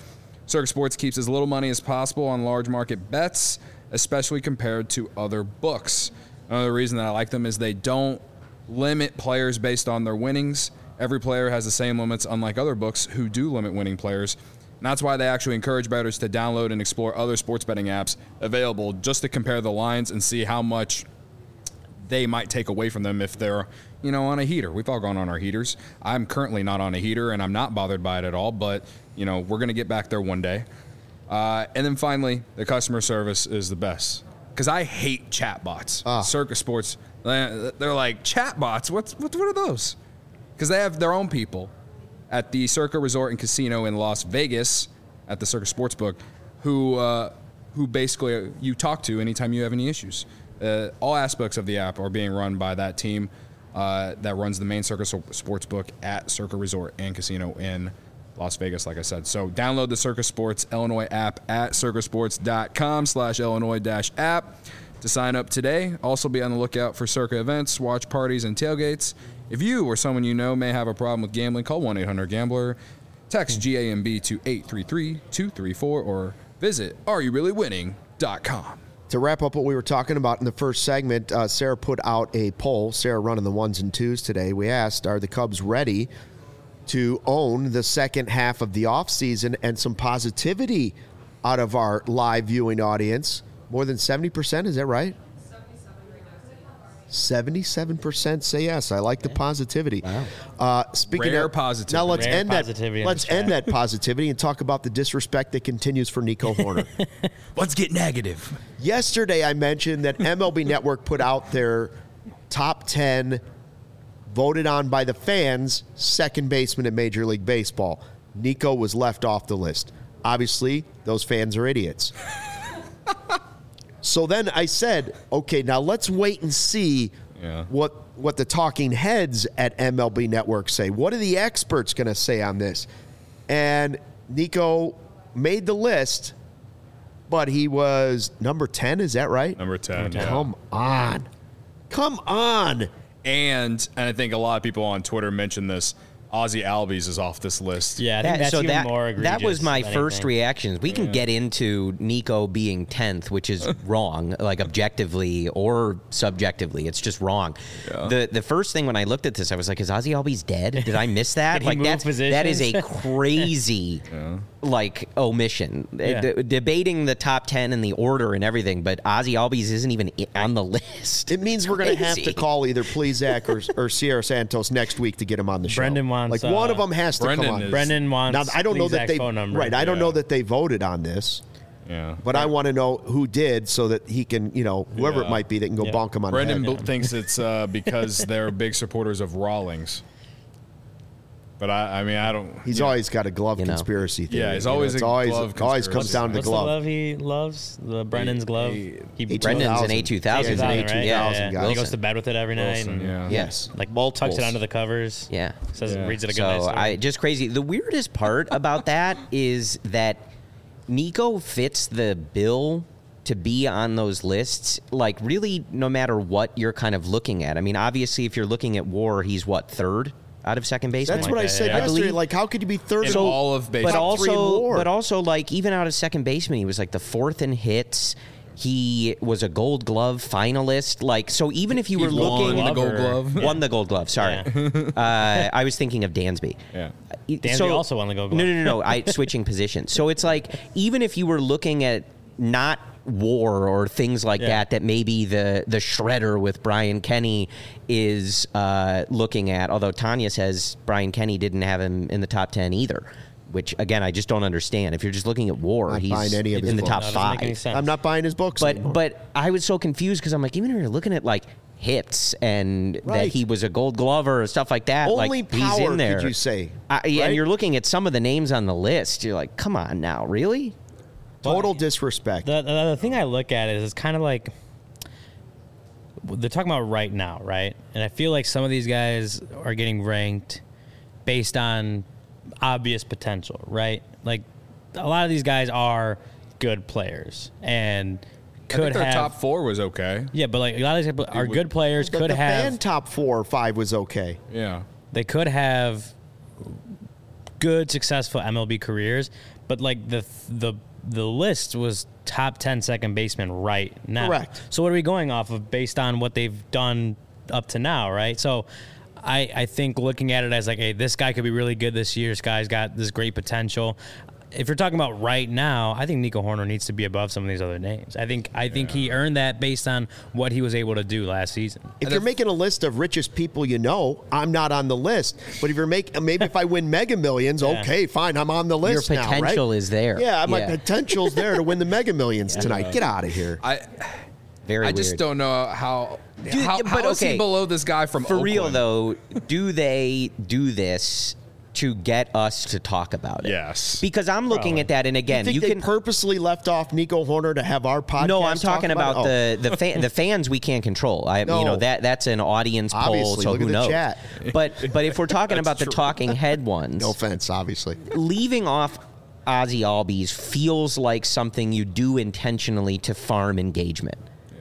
Circa Sports keeps as little money as possible on large market bets, especially compared to other books. Another reason that I like them is they don't limit players based on their winnings. Every player has the same limits, unlike other books who do limit winning players. And that's why they actually encourage bettors to download and explore other sports betting apps available just to compare the lines and see how much they might take away from them if they're, on a heater. We've all gone on our heaters. I'm currently not on a heater, and I'm not bothered by it at all, but, we're going to get back there one day. And then finally, the customer service is the best. Because I hate chatbots. Circa Sports, they're like, chatbots? What are those? Because they have their own people at the Circa Resort and Casino in Las Vegas at the Circa Sportsbook who basically you talk to anytime you have any issues. All aspects of the app are being run by that team that runs the main Circa Sportsbook at Circa Resort and Casino in Las Vegas, like I said. So download the Circa Sports Illinois app at circasports.com/Illinois-app to sign up today. Also be on the lookout for Circa events, watch parties, and tailgates. If you or someone you know may have a problem with gambling, call 1-800-GAMBLER, text GAMB to 833-234, or visit areyourreallywinning.com. To wrap up what we were talking about in the first segment, Sarah put out a poll. Sarah running the 1s and 2s today. We asked, are the Cubs ready to own the second half of the offseason? And some positivity out of our live viewing audience. More than 70%, is that right? 77% say yes. I like the positivity. Wow. Speaking Rare of positivity. Now let's Rare end positivity that. Let's end that positivity and talk about the disrespect that continues for Nico Horner. Let's get negative. Yesterday, I mentioned that MLB Network put out their top 10 voted on by the fans second baseman in Major League Baseball. Nico was left off the list. Obviously, those fans are idiots. So then I said, okay, now let's wait and see what the talking heads at MLB Network say. What are the experts going to say on this? And Nico made the list, but he was number 10. Is that right? Number 10. Yeah. Come on. And I think a lot of people on Twitter mentioned this. Ozzy Albies is off this list. Yeah, I think that's even more egregious. That was my than first anything. reaction. We can get into Nico being 10th, which is wrong, like objectively or subjectively. It's just wrong. Yeah. The first thing when I looked at this, I was like, is Ozzy Albies dead? Did I miss that? Did he like move that is a crazy omission. Debating the top 10 and the order and everything, but Ozzy Albies isn't even on the list. It means we're going to have to call either Plesac or Sierra Santos next week to get him on the show. Brendan wants like one of them has to come on. Brendan wants. Now I don't know that they phone number. right. I don't know that they voted on this. Yeah, but I want to know who did so that he can, whoever it might be, that can go bonk him on. Brendan the head. thinks it's because they're big supporters of Rawlings. But I mean, I don't. He's always got a glove conspiracy theory. Yeah, he's always a glove conspiracy. Always comes down to What's glove. the glove he loves? The Brendan's glove. Brendan's an A2000. He's an A2000 guy. He goes to bed with it every night. Wilson, and Yes. Like Multiples. tucks it under the covers. Yeah. Reads it a good night So story. just crazy. The weirdest part about that is that Nico fits the bill to be on those lists, like really no matter what you're kind of looking at. I mean, obviously, if you're looking at WAR, he's what, third out of second baseman? That's what I said yeah. yesterday. Like, how could you be third in all of baseball? But also, like even out of second baseman, he was like the fourth in hits. He was a Gold Glove finalist. Like, so even if you were looking, the Gold Glove, won the Gold Glove. Sorry, I was thinking of Dansby. Yeah, Dansby also won the Gold Glove. No. I switching positions. So it's like even if you were looking at not WAR or things like that maybe the shredder with Brian Kenny is looking at. Although Tanya says Brian Kenny didn't have him in the top 10 either. Which, again, I just don't understand. If you're just looking at WAR, he's any of his in the top books. five. I'm not buying his books anymore. But I was so confused because I'm like, even if you're looking at, like, hits and that he was a Gold Glover or stuff like that, Only like, he's power, in there. could you say? And you're looking at some of the names on the list. You're like, come on now, really? Total disrespect. The thing I look at is kind of like they're talking about right now, right? And I feel like some of these guys are getting ranked based on obvious potential, right? Like a lot of these guys are good players and could I think their have top four was okay. Yeah, but like a lot of these guys are good players. The fan top 4 or 5 was okay. Yeah, they could have good, successful MLB careers, but like the list was top 10 second baseman right now. Correct. So what are we going off of based on what they've done up to now, right? So I think looking at it as like, hey, this guy could be really good this year. This guy's got this great potential. If you're talking about right now, I think Nico Hoerner needs to be above some of these other names. I think he earned that based on what he was able to do last season. If you're making a list of richest people you know, I'm not on the list. But if you're maybe if I win Mega Millions, okay, fine, I'm on the list Your potential now, right? is there. Yeah, my potential's there to win the Mega Millions tonight. Get out of here. I Weird. just don't know how but is he okay, below this guy from For Oakland? real, though, do they do this to get us to talk about it? Yes. Because I'm looking at that, and again, Think you they can purposely left off Nico Hoerner to have our podcast? No, I'm talking talk about it? the fans we can't control. No. That's an audience poll, Obviously, so look who at the knows? chat. But if we're talking about the talking head ones, No offense, obviously. leaving off Ozzy Albies feels like something you do intentionally to farm engagement.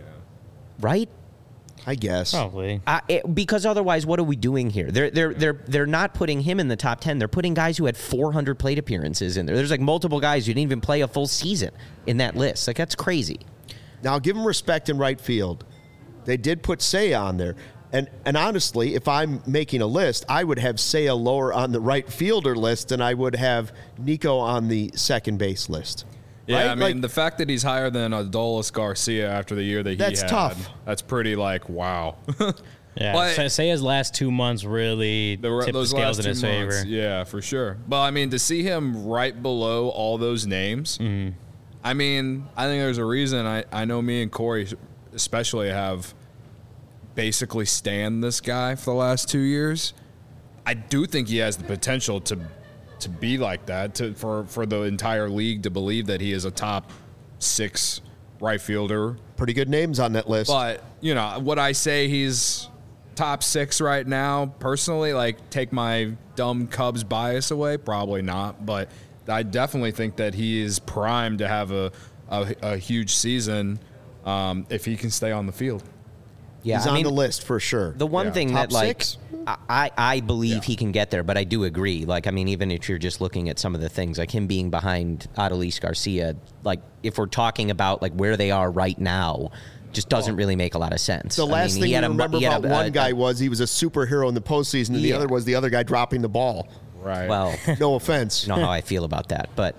Right? I guess. Probably. Because otherwise, what are we doing here? They're not putting him in the top 10. They're putting guys who had 400 plate appearances in there. There's like multiple guys who didn't even play a full season in that list. Like, that's crazy. Now, give them respect in right field. They did put Seiya on there. And honestly, if I'm making a list, I would have Seiya lower on the right fielder list than I would have Nico on the second base list. Yeah, right? I mean, the fact that he's higher than Adolis Garcia after the year that he That's had, tough. That's pretty like, wow. Yeah, But- say his last 2 months really tipped the Those scales last in his 2 months, favor. yeah, for sure. But I mean, to see him right below all those names, I mean, I think there's a reason. I know me and Corey especially have basically stand this guy for the last 2 years. I do think he has the potential to be like that, for the entire league to believe that he is a top 6 right fielder. Pretty good names on that list. But, would I say he's top 6 right now, personally? Like, take my dumb Cubs bias away? Probably not. But I definitely think that he is primed to have a huge season if he can stay on the field. Yeah, He's on the list for sure. The one thing Top that, like, 6? I believe he can get there, but I do agree. Like, I mean, even if you're just looking at some of the things, like him being behind Adolis Garcia, like, if we're talking about, like, where they are right now, just doesn't really make a lot of sense. The last thing you remember about one guy was he was a superhero in the postseason, and the other was the other guy dropping the ball. Right. Well, No offense. you know how I feel about that, but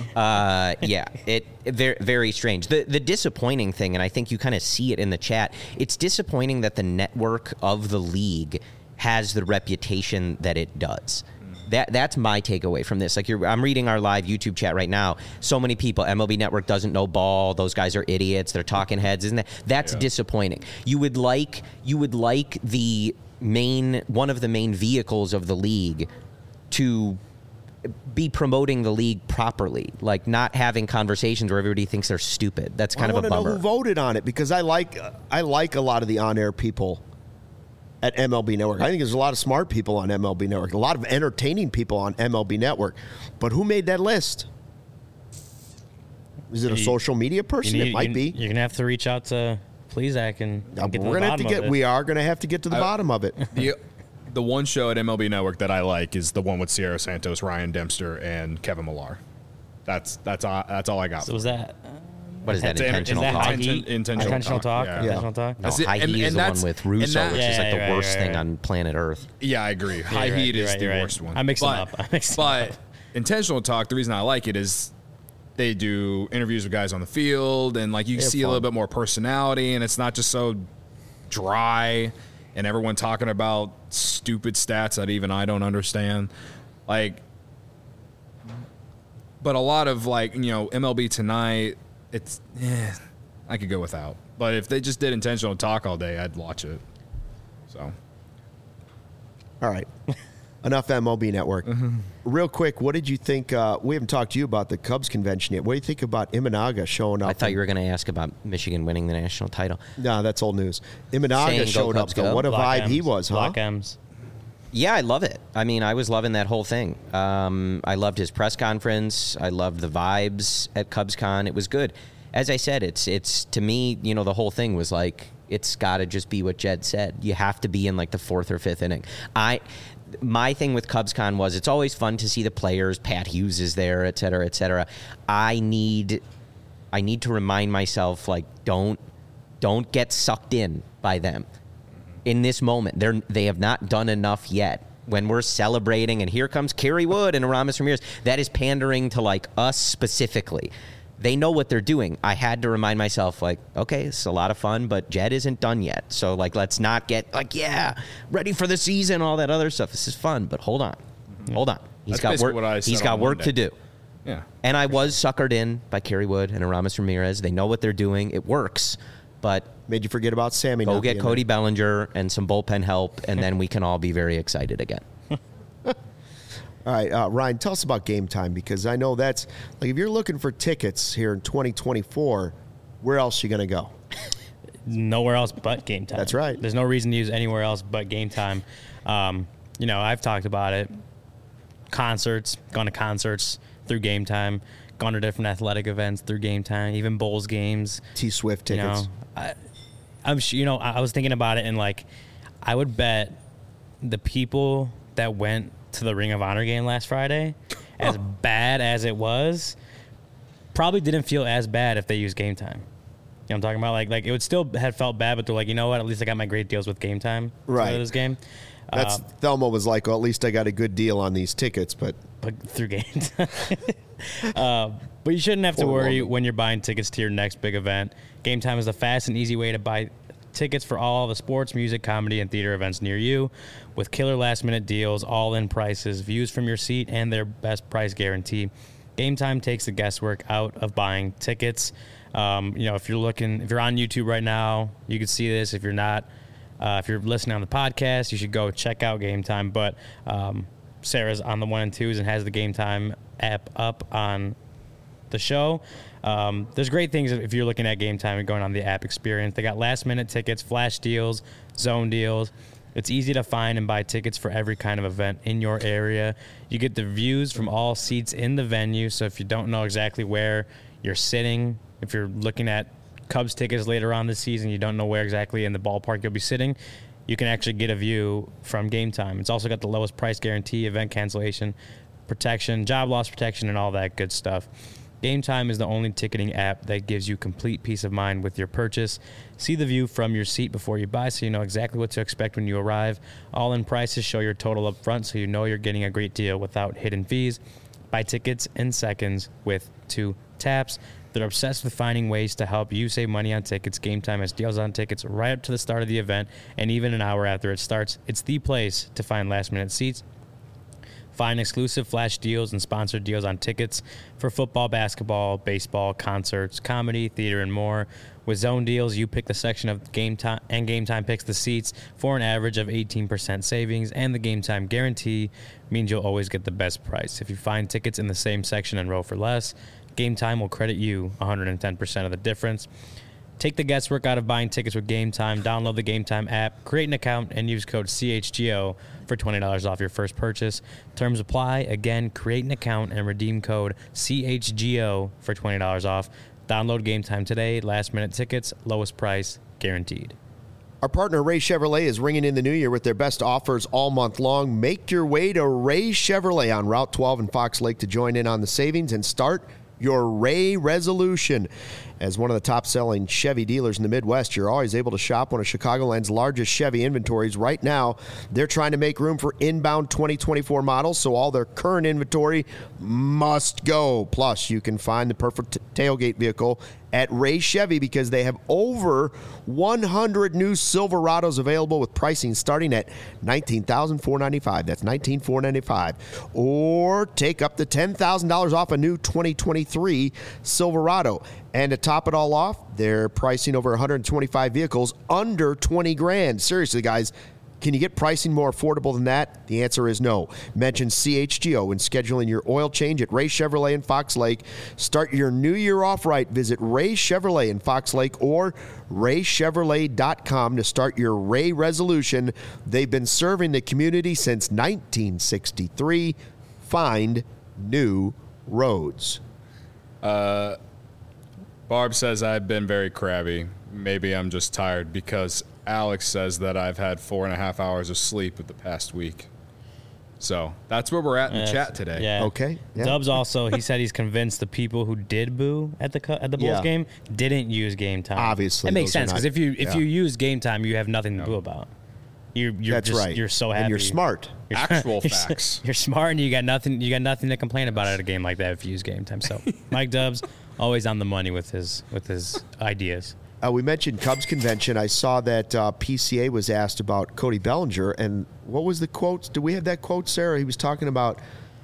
it very, very strange. The disappointing thing, and I think you kind of see it in the chat, it's disappointing that the network of the league has the reputation that it does. That's my takeaway from this. Like, I'm reading our live YouTube chat right now. So many people, MLB Network doesn't know ball. Those guys are idiots. They're talking heads, isn't that? That's disappointing. You would like the one of the main vehicles of the league to be promoting the league properly, like not having conversations where everybody thinks they're stupid. That's kind of a bummer. I want to know who voted on it, because I like a lot of the on-air people at MLB Network. I think there's a lot of smart people on MLB Network, a lot of entertaining people on MLB Network. But who made that list? Is it a social media person? It might be. You're gonna have to reach out to Plesac and get to the bottom of it. We are going to have to get to the bottom of it. The one show at MLB Network that I like is the one with Sierra Santos, Ryan Dempster, and Kevin Millar. That's all I got. So was that? What is that? Is Intentional that talk? high heat? Intentional talk. yeah. Intentional talk. No, That's it. high And- heat and is the that's- one with Russo, and that- which is like the Yeah, worst thing right. on planet Earth. Yeah, I agree. High You're right, heat you're is right, the you're right. worst one. I mixed them up. But intentional talk, the reason I like it is they do interviews with guys on the field, and like you see a little bit more personality, and it's not just so dry and everyone talking about stupid stats that even I don't understand. Like, but a lot of MLB Tonight, it's I could go without. But if they just did intentional talk all day, I'd watch it. So. All right. Enough MLB Network. Real quick, what did you think? We haven't talked to you about the Cubs convention yet. What do you think about Imanaga showing up? I thought you were going to ask about Michigan winning the national title. No, that's old news. Imanaga Saying, "Go showed up, Cubs, though. go." What a Block vibe he M's. was, huh? Block M's. Yeah, I love it. I mean, I was loving that whole thing. I loved his press conference. I loved the vibes at CubsCon. It was good. As I said, it's to me, the whole thing was like, it's got to just be what Jed said. You have to be in like the fourth or fifth inning. my thing with CubsCon was it's always fun to see the players. Pat Hughes is there, et cetera, et cetera. I need to remind myself, like, don't get sucked in by them in this moment. They have not done enough yet. When we're celebrating, and here comes Kerry Wood and Aramis Ramirez, that is pandering to, like, us specifically. They know what they're doing. I had to remind myself, like, okay, it's a lot of fun, but Jed isn't done yet. So, like, let's not get, like, yeah, ready for the season, all that other stuff. This is fun, but hold on. Hold on. He's got work. He's got work to do. Yeah. And I was suckered in by Kerry Wood and Aramis Ramirez. They know what they're doing. It works, but made you forget about Sammy. Go get Cody Bellinger and some bullpen help, and then we can all be very excited again. All right, Ryan, tell us about Game Time, because I know that's, like, if you're looking for tickets here in 2024, where else are you going to go? Nowhere else but Game Time. That's right. There's no reason to use anywhere else but Game Time. You know, I've talked about it. Concerts, gone to concerts through Game Time, gone to different athletic events through Game Time, even Bulls games. T-Swift tickets. You know, I'm sure, you know, I was thinking about it, and, like, I would bet the people that went to the Ring of Honor game last Friday, as bad as it was, probably didn't feel as bad if they used Game Time. You know what I'm talking about? Like it would still have felt bad, but they're like, you know what? At least I got my great deals with Game Time. Right. For this game. That's Thelma was like, well, at least I got a good deal on these tickets, but through Game Time. But you shouldn't have to worry when you're buying tickets to your next big event. Game Time is the fast and easy way to buy tickets for all the sports, music, comedy, and theater events near you, with killer last-minute deals, all-in prices, views from your seat, and their best price guarantee. Game Time takes the guesswork out of buying tickets. You know, if you're on YouTube right now, you can see this. If you're not, if you're listening on the podcast, you should go check out Game Time. But Sarah's on the 1 and 2s and has the Game Time app up on the show. There's great things if you're looking at Game Time and going on the app experience. They got last-minute tickets, flash deals, zone deals. It's easy to find and buy tickets for every kind of event in your area. You get the views from all seats in the venue, so if you don't know exactly where you're sitting, if you're looking at Cubs tickets later on this season, you don't know where exactly in the ballpark you'll be sitting, you can actually get a view from Game Time. It's also got the lowest price guarantee, event cancellation protection, job loss protection, and all that good stuff. Game Time is the only ticketing app that gives you complete peace of mind with your purchase. See the view from your seat before you buy so you know exactly what to expect when you arrive. All-in prices show your total up front so you know you're getting a great deal without hidden fees. Buy tickets in seconds with 2 taps. They're obsessed with finding ways to help you save money on tickets. Game Time has deals on tickets right up to the start of the event and even an hour after it starts. It's the place to find last-minute seats. Find exclusive flash deals and sponsored deals on tickets for football, basketball, baseball, concerts, comedy, theater, and more. With zone deals, you pick the section of Game Time, and Game Time picks the seats for an average of 18% savings, and the Game Time guarantee means you'll always get the best price. If you find tickets in the same section and row for less, Game Time will credit you 110% of the difference. Take the guesswork out of buying tickets with Game Time. Download the Game Time app, create an account, and use code CHGO for $20 off your first purchase. Terms apply. Again, create an account and redeem code CHGO for $20 off. Download Game Time today. Last-minute tickets, lowest price, guaranteed. Our partner, Ray Chevrolet, is ringing in the new year with their best offers all month long. Make your way to Ray Chevrolet on Route 12 in Fox Lake to join in on the savings and start your Ray resolution. As one of the top-selling Chevy dealers in the Midwest, you're always able to shop one of Chicagoland's largest Chevy inventories. Right now, they're trying to make room for inbound 2024 models, so all their current inventory must go. Plus, you can find the perfect tailgate vehicle at Ray Chevy because they have over 100 new Silverados available with pricing starting at $19,495. That's $19,495. Or take up to $10,000 off a new 2023 Silverado. And to top it all off, they're pricing over 125 vehicles under $20,000. Seriously, guys, can you get pricing more affordable than that? The answer is no. Mention CHGO when scheduling your oil change at Ray Chevrolet in Fox Lake. Start your new year off right. Visit Ray Chevrolet in Fox Lake or raychevrolet.com to start your Ray resolution. They've been serving the community since 1963. Find new roads. Barb says I've been very crabby. Maybe I'm just tired because Alex says that I've had 4.5 hours of sleep in the past week. So that's where we're at in the chat today. Yeah. Okay. Yeah. Dubs also, he said he's convinced the people who did boo at the Bulls game didn't use game time. Obviously, it makes those are sense not- because if you use game time, you have nothing to boo about. You're That's just, right. You're so happy. And you're smart. Actual facts. You're smart, and you got nothing. You got nothing to complain about at a game like that if you use game time. So Mike Dubs always on the money with his ideas. We mentioned Cubs convention. I saw that PCA was asked about Cody Bellinger, and what was the quote? Do we have that quote, Sarah? He was talking about,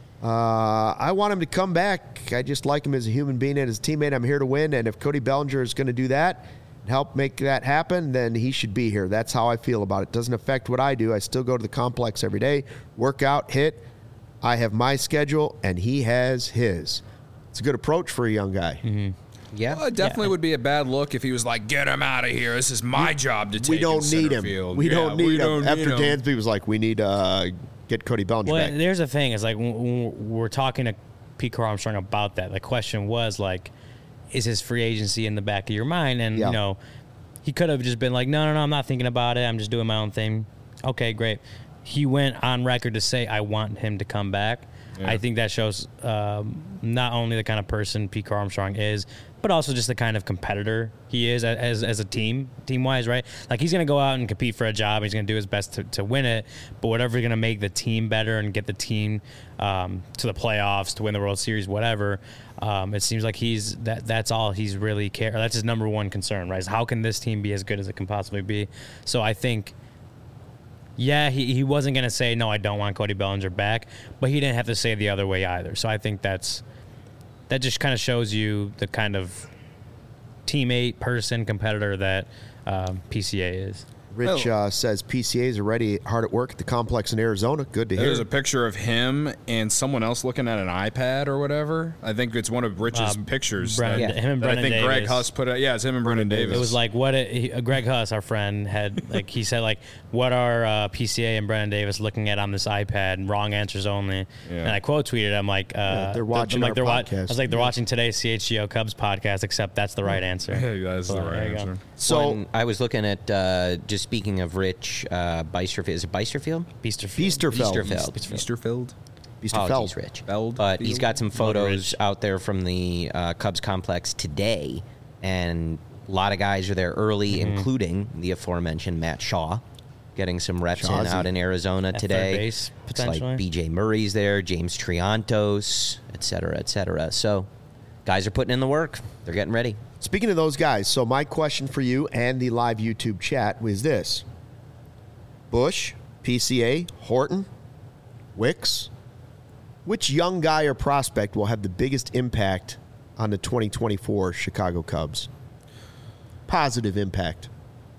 I want him to come back. I just like him as a human being and as a teammate. I'm here to win, and if Cody Bellinger is going to do that and help make that happen, then he should be here. That's how I feel about it. Doesn't affect what I do. I still go to the complex every day, work out, hit. I have my schedule, and he has his. It's a good approach for a young guy. Mm-hmm. Yeah. Well, it definitely would be a bad look if he was like, "Get him out of here. This is my job to take." We don't in need center him. field." We Yeah, don't need him. need After him. Dansby was like, we need to get Cody Bellinger Well, back. there's the thing. It's like when we're talking to Pete Armstrong about that. The question was like, is his free agency in the back of your mind? And Yeah. he could have just been like, no, I'm not thinking about it. I'm just doing my own thing. Okay, great. He went on record to say, I want him to come back. Yeah. I think that shows not only the kind of person Pete Armstrong is, but also just the kind of competitor he is as a team-wise, right? Like, he's going to go out and compete for a job. He's going to do his best to win it, but whatever's going to make the team better and get the team to the playoffs, to win the World Series, whatever, it seems like that's all he's really care. That's his number one concern, right? Is how can this team be as good as it can possibly be? So I think, yeah, he wasn't going to say, no, I don't want Cody Bellinger back, but he didn't have to say the other way either. So I think that just kind of shows you the kind of teammate, person, competitor that PCA is. Rich says PCAs are already hard at work at the complex in Arizona. Good to hear. There's a picture of him and someone else looking at an iPad or whatever. I think it's one of Rich's pictures. Him and that I Brennan think Greg Davis. Huss put out. Yeah, it's him and Brennan Davis. It was like Greg Huss, our friend, had like he said like, what are PCA and Brennan Davis looking at on this iPad? Wrong answers only. Yeah. And I quote tweeted, I'm like, they're watching I'm like, our I podcast. was like, they're watching today's CHGO Cubs podcast, except that's the right answer. Yeah, that's the So, right there you go. answer. So When I was looking at, just speaking of Rich Beisterfield. Is it Beisterfield? Biesterfeld. Easterfield. Biesterfeld. Apologies, Rich. Feld But he's Field? got some photos Rich. out there from the Cubs complex today, and a lot of guys are there early, including the aforementioned Matt Shaw, getting some reps in Shawsy. out in Arizona At third today. base, Looks like potentially. B.J. Murray's there, James Triantos, et cetera, et cetera. So guys are putting in the work. They're getting ready. Speaking of those guys, so my question for you and the live YouTube chat was this. Bush, PCA, Horton, Wicks, which young guy or prospect will have the biggest impact on the 2024 Chicago Cubs? Positive impact.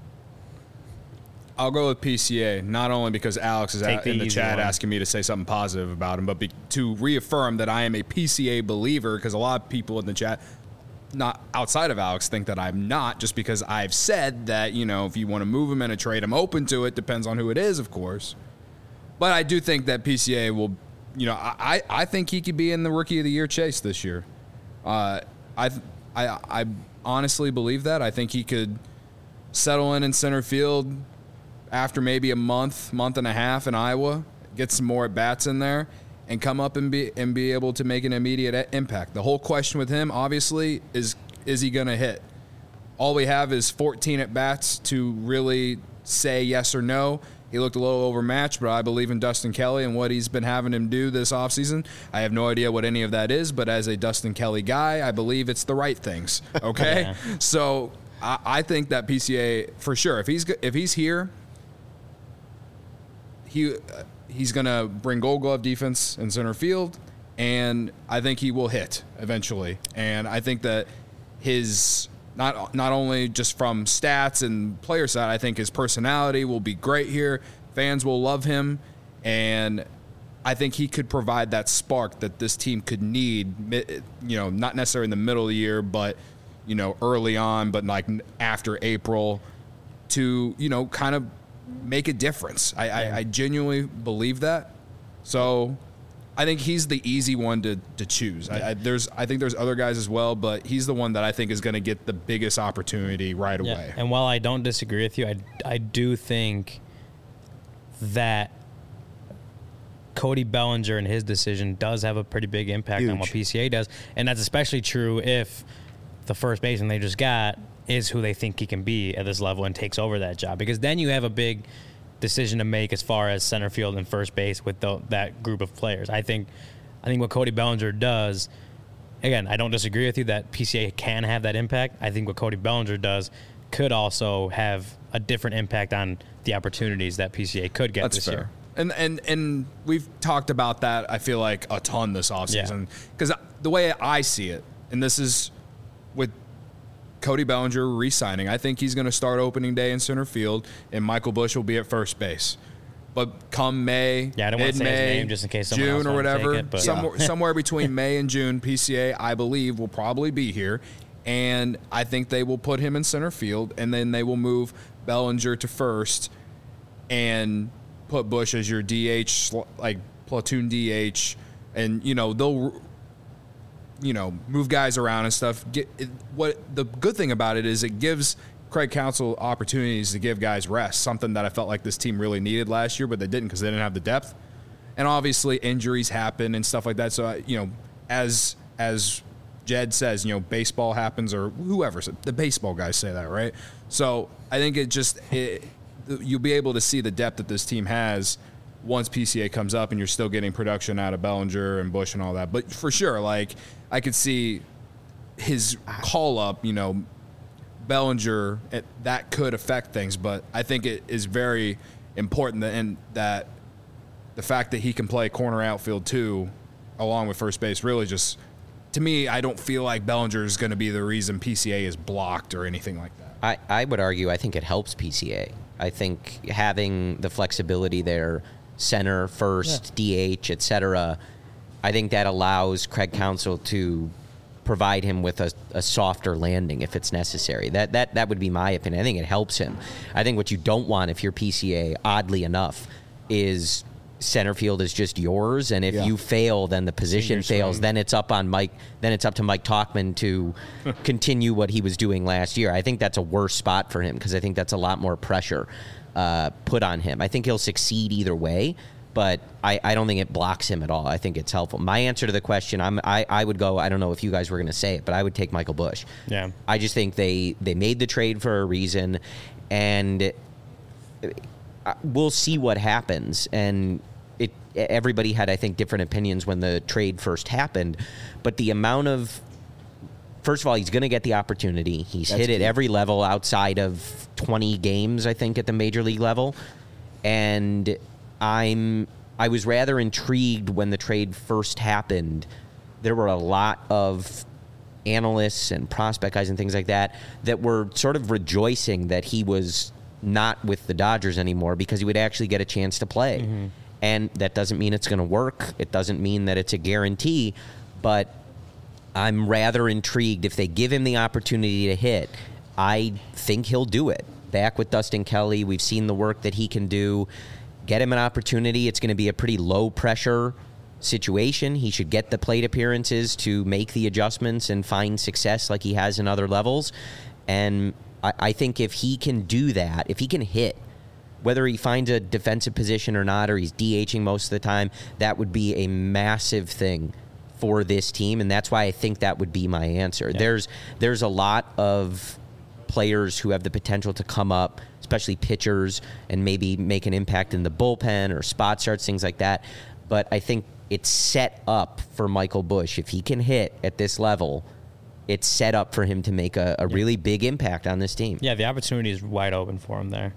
I'll go with PCA, not only because Alex is Take the in the easy chat one. asking me to say something positive about him, but to reaffirm that I am a PCA believer, because a lot of people in the chat, not outside of Alex, think that I'm not, just because I've said that, if you want to move him in a trade, I'm open to it. Depends on who it is, of course. But I do think that PCA will, I think he could be in the Rookie of the Year chase this year. I honestly believe that. I think he could settle in center field after maybe a month and a half in Iowa, get some more at-bats in there, and come up and be able to make an immediate impact. The whole question with him, obviously, is he going to hit? All we have is 14 at-bats to really say yes or no. He looked a little overmatched, but I believe in Dustin Kelly and what he's been having him do this offseason. I have no idea what any of that is, but as a Dustin Kelly guy, I believe it's the right things, okay? Yeah. So I think that PCA, for sure, if he's here, he's going to bring Gold Glove defense in center field, and I think he will hit eventually. And I think that his not only just from stats and player side, I think his personality will be great here. Fans will love him, and I think he could provide that spark that this team could need, not necessarily in the middle of the year, but early on, but like after April to, kind of make a difference. I genuinely believe that. So I think he's the easy one to choose. I think there's other guys as well, but he's the one that I think is going to get the biggest opportunity right away. And while I don't disagree with you, I do think that Cody Bellinger and his decision does have a pretty big impact on what PCA does. And that's especially true if the first baseman they just got is who they think he can be at this level and takes over that job. Because then you have a big decision to make as far as center field and first base with that group of players. I think what Cody Bellinger does, again, I don't disagree with you that PCA can have that impact. I think what Cody Bellinger does could also have a different impact on the opportunities that PCA could get this year. And we've talked about that, I feel like, a ton this offseason. Because the way I see it, and this is with Cody Bellinger re-signing, I think he's going to start opening day in center field, and Michael Busch will be at first base. But come May, I don't want to say his name just in case someone June else or whatever, take it, somewhere between May and June, PCA, I believe, will probably be here. And I think they will put him in center field, and then they will move Bellinger to first and put Busch as your DH, like platoon DH, and they'll move guys around and stuff. What the good thing about it is it gives Craig Counsell opportunities to give guys rest, something that I felt like this team really needed last year, but they didn't because they didn't have the depth. And obviously injuries happen and stuff like that. So as Jed says, baseball happens, or whoever, the baseball guys say that, right? So I think you'll be able to see the depth that this team has once PCA comes up, and you're still getting production out of Bellinger and Busch and all that. But for sure, like, I could see his call up, Bellinger, that could affect things. But I think it is very important that the fact that he can play corner outfield too, along with first base, really just, to me, I don't feel like Bellinger is going to be the reason PCA is blocked or anything like that. I would argue I think it helps PCA. I think having the flexibility there, center, first, DH, etc., I think that allows Craig Counsell to provide him with a softer landing if it's necessary. That would be my opinion. I think it helps him. I think what you don't want if you're PCA, oddly enough, is center field is just yours, and if you fail, then the position fails. Then it's up on Mike. Then it's up to Mike Tauchman to continue what he was doing last year. I think that's a worse spot for him because I think that's a lot more pressure put on him. I think he'll succeed either way, but I don't think it blocks him at all. I think it's helpful. My answer to the question, I would go, I don't know if you guys were going to say it, but I would take Michael Busch. Yeah. I just think they made the trade for a reason, and we'll see what happens. And everybody had, I think, different opinions when the trade first happened, but the amount of, first of all, he's going to get the opportunity. He's hit at every level outside of 20 games, I think, at the major league level. And I was rather intrigued when the trade first happened. There were a lot of analysts and prospect guys and things like that were sort of rejoicing that he was not with the Dodgers anymore because he would actually get a chance to play. Mm-hmm. And that doesn't mean it's going to work. It doesn't mean that it's a guarantee, but I'm rather intrigued. If they give him the opportunity to hit, I think he'll do it. Back with Dustin Kelly, we've seen the work that he can do. Get him an opportunity. It's going to be a pretty low-pressure situation. He should get the plate appearances to make the adjustments and find success like he has in other levels. And I think if he can do that, if he can hit, whether he finds a defensive position or not, or he's DHing most of the time, that would be a massive thing for this team, and that's why I think that would be my answer. Yeah. There's a lot of players who have the potential to come up, especially pitchers, and maybe make an impact in the bullpen or spot starts, things like that. But I think it's set up for Michael Busch. If he can hit at this level, it's set up for him to make a really big impact on this team. Yeah, the opportunity is wide open for him there.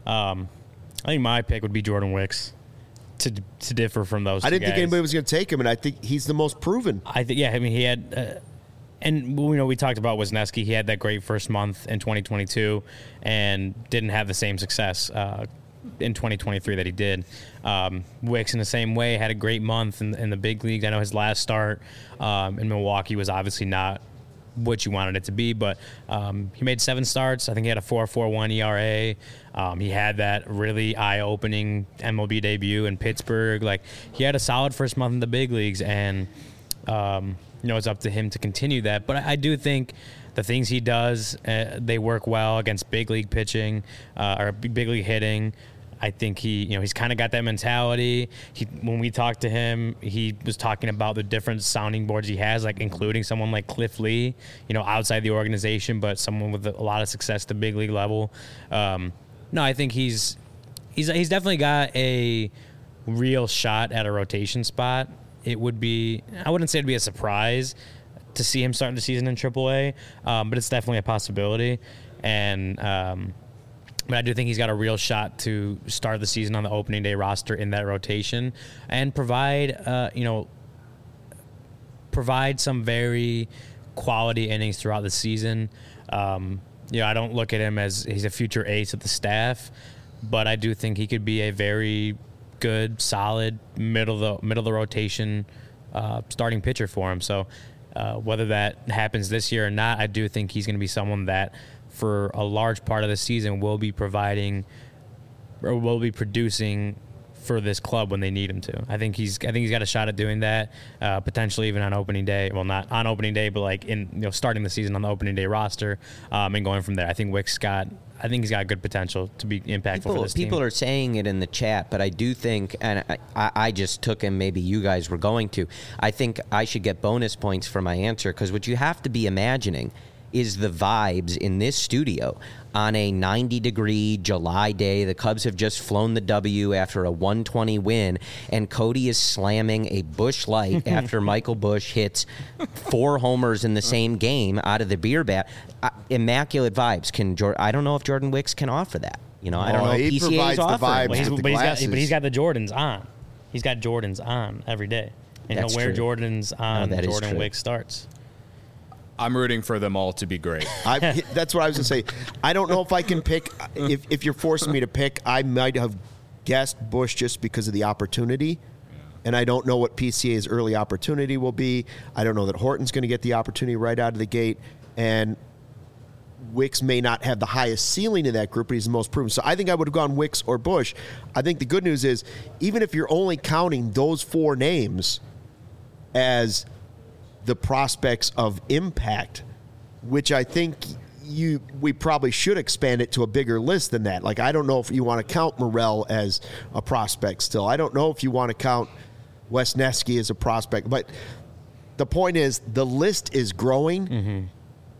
I think my pick would be Jordan Wicks to differ from those two I didn't guys. think anybody was going to take him, and I think he's the most proven. I think, yeah, I mean, he had, and we talked about Wisniewski. He had that great first month in 2022 and didn't have the same success in 2023 that he did. Wicks, in the same way, had a great month in the big leagues. I know his last start in Milwaukee was obviously not what you wanted it to be, but he made 7 starts. I think he had a 4.41 ERA. He had that really eye-opening MLB debut in Pittsburgh. Like, he had a solid first month in the big leagues, and it's up to him to continue that. But I do think the things he does, they work well against big league pitching or big league hitting. I think he's kind of got that mentality. When we talked to him, he was talking about the different sounding boards he has, like including someone like Cliff Lee, outside the organization, but someone with a lot of success at the big league level. No, I think he's definitely got a real shot at a rotation spot. It would be, I wouldn't say it'd be a surprise to see him start the season in AAA, but it's definitely a possibility. And but I do think he's got a real shot to start the season on the opening day roster in that rotation and provide some very quality innings throughout the season. I don't look at him as he's a future ace of the staff, but I do think he could be a very good, solid middle of the rotation starting pitcher for him. So whether that happens this year or not, I do think he's going to be someone that, for a large part of the season, will be providing or will be producing for this club when they need him to. I think he's got a shot at doing that, potentially even on opening day. Well, not on opening day, but like in starting the season on the opening day roster, and going from there. I think he's got good potential to be impactful for this team. People are saying it in the chat, but I do think, and I just took him, maybe you guys were going to, I think I should get bonus points for my answer, because what you have to be imagining is the vibes in this studio on a 90-degree July day. The Cubs have just flown the W after a 120 win, and Cody is slamming a Busch Light after Michael Busch hits 4 homers in the same game out of the beer bat. Immaculate vibes. I don't know if Jordan Wicks can offer that. I don't know if PCA is offering. He's got the Jordans on. He's got Jordans on every day, and he'll wear Jordans on Jordan Wicks starts. I'm rooting for them all to be great. That's what I was going to say. I don't know if I can pick. If you're forcing me to pick, I might have guessed Busch just because of the opportunity. And I don't know what PCA's early opportunity will be. I don't know that Horton's going to get the opportunity right out of the gate. And Wicks may not have the highest ceiling in that group, but he's the most proven. So I think I would have gone Wicks or Busch. I think the good news is, even if you're only counting those 4 names as the prospects of impact, which I think we probably should expand it to a bigger list than that. Like, I don't know if you want to count Morel as a prospect still. I don't know if you want to count Wesneski as a prospect. But the point is, the list is growing,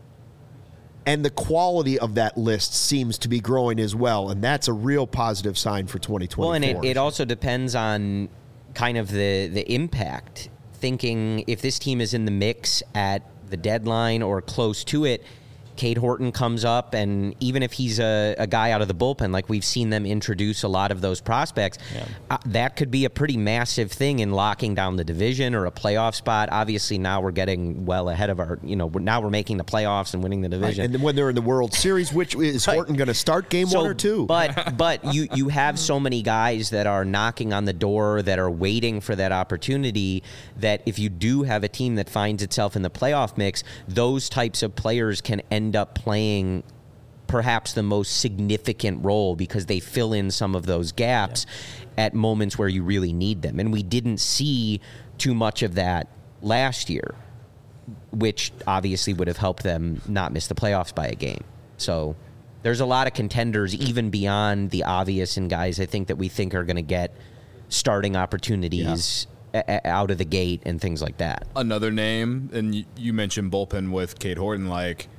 and the quality of that list seems to be growing as well, and that's a real positive sign for 2024. Well, and it also depends on kind of the impact. Thinking if this team is in the mix at the deadline or close to it, Cade Horton comes up, and even if he's a guy out of the bullpen, like we've seen them introduce a lot of those prospects, that could be a pretty massive thing in locking down the division or a playoff spot. Obviously, now we're getting well ahead of our, now we're making the playoffs and winning the division. Right. And then when they're in the World Series, which is Horton going to start game 1 or 2? But you have so many guys that are knocking on the door that are waiting for that opportunity, that if you do have a team that finds itself in the playoff mix, those types of players can end up playing perhaps the most significant role, because they fill in some of those gaps at moments where you really need them. And we didn't see too much of that last year, which obviously would have helped them not miss the playoffs by a game. So there's a lot of contenders even beyond the obvious, and guys I think that we think are going to get starting opportunities out of the gate and things like that. Another name, and you mentioned bullpen with Cade Horton, like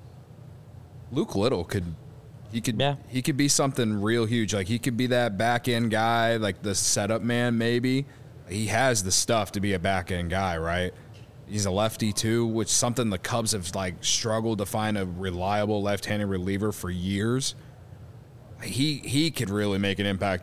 Luke Little could be something real huge. Like, he could be that back end guy, like the setup man. Maybe he has the stuff to be a back end guy, right? He's a lefty too, which is something the Cubs have like struggled to find a reliable left-handed reliever for years. He could really make an impact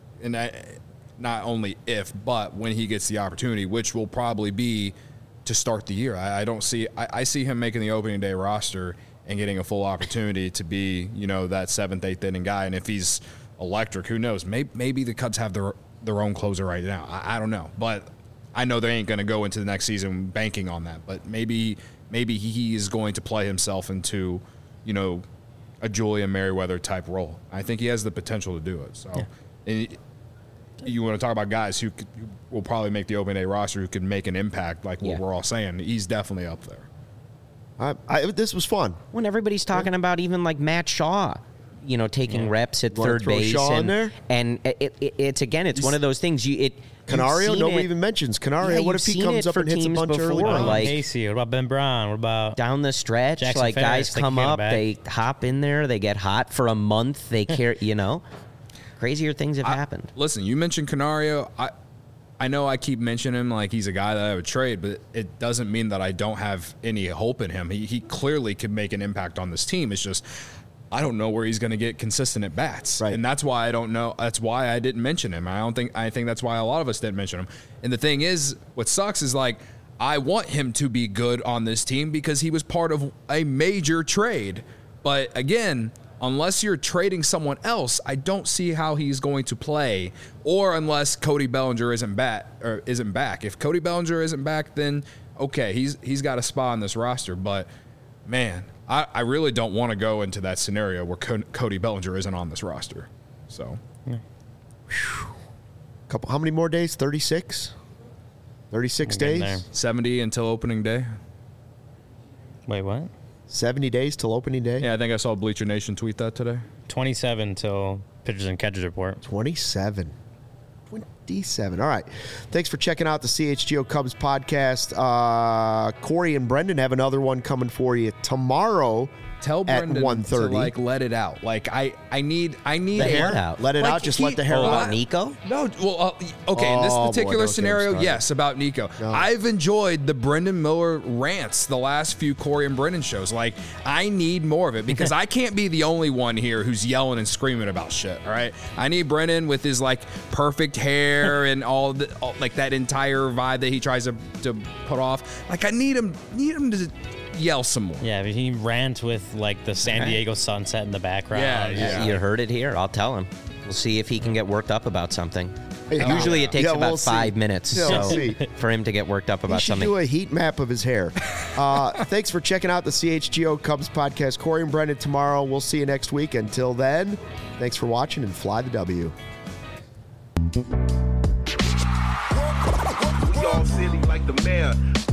not only if, but when he gets the opportunity, which will probably be to start the year. I see him making the opening day roster and getting a full opportunity to be, that 7th, 8th inning guy. And if he's electric, who knows? Maybe the Cubs have their own closer right now. I don't know. But I know they ain't going to go into the next season banking on that. But maybe he is going to play himself into, a Julian Merriweather type role. I think he has the potential to do it. So, and you want to talk about guys who will probably make the opening day roster, who could make an impact, like what we're all saying. He's definitely up there. This was fun. When everybody's talking about even like Matt Shaw taking reps at Wanna third throw base. Shaw in there? And it's one of those things. Canario? Nobody even mentions Canario. Yeah, what if he you've comes seen it up and for hits a teams bunch early? before, like- Casey, what about Ben Braun? What about down the stretch, Jackson like Ferris, guys they come can get up, him back. they hop in there, they get hot for a month, they care, crazier things have happened. Listen, you mentioned Canario. I know I keep mentioning him like he's a guy that I would trade, but it doesn't mean that I don't have any hope in him. He clearly could make an impact on this team. It's just I don't know where he's going to get consistent at bats, right. And that's why I don't know. That's why I didn't mention him. I think that's why a lot of us didn't mention him. And the thing is, what sucks is like I want him to be good on this team because he was part of a major trade. But again, unless you're trading someone else, I don't see how he's going to play. Or unless Cody Bellinger isn't back. If Cody Bellinger isn't back, then okay, he's got a spot on this roster. But man, I really don't want to go into that scenario where Cody Bellinger isn't on this roster. So, How many more days? 36? 36 We're getting days? there. 70 until opening day. wait, what? 70 days till opening day? Yeah, I think I saw Bleacher Nation tweet that today. 27 till pitchers and catchers report. 27. 27. All right. Thanks for checking out the CHGO Cubs podcast. Corey and Brendan have another one coming for you tomorrow. Tell Brendan at 1:30. to let it out. I need The hair out. Let it out. Just let the hair What out. about Nico? No, well, okay. In this Oh, boy, particular don't get scenario, him started. yes, about Nico. No. I've enjoyed the Brendan Miller rants the last few Corey and Brendan shows. Like, I need more of it because I can't be the only one here who's yelling and screaming about shit. All right, I need Brendan with his like perfect hair and all like that entire vibe that he tries to put off. Like, I need him to yell some more. Yeah, but he rant with like the San Diego sunset in the background. Yeah. You heard it here. I'll tell him. We'll see if he can get worked up about something. Yeah. Usually it takes Yeah, about we'll see. 5 minutes Yeah, we'll see. for him to get worked up You about should something. do a heat map of his hair. Thanks for checking out the CHGO Cubs podcast. Corey and Brendan tomorrow. We'll see you next week. Until then, thanks for watching and fly the W. We all silly like the mayor.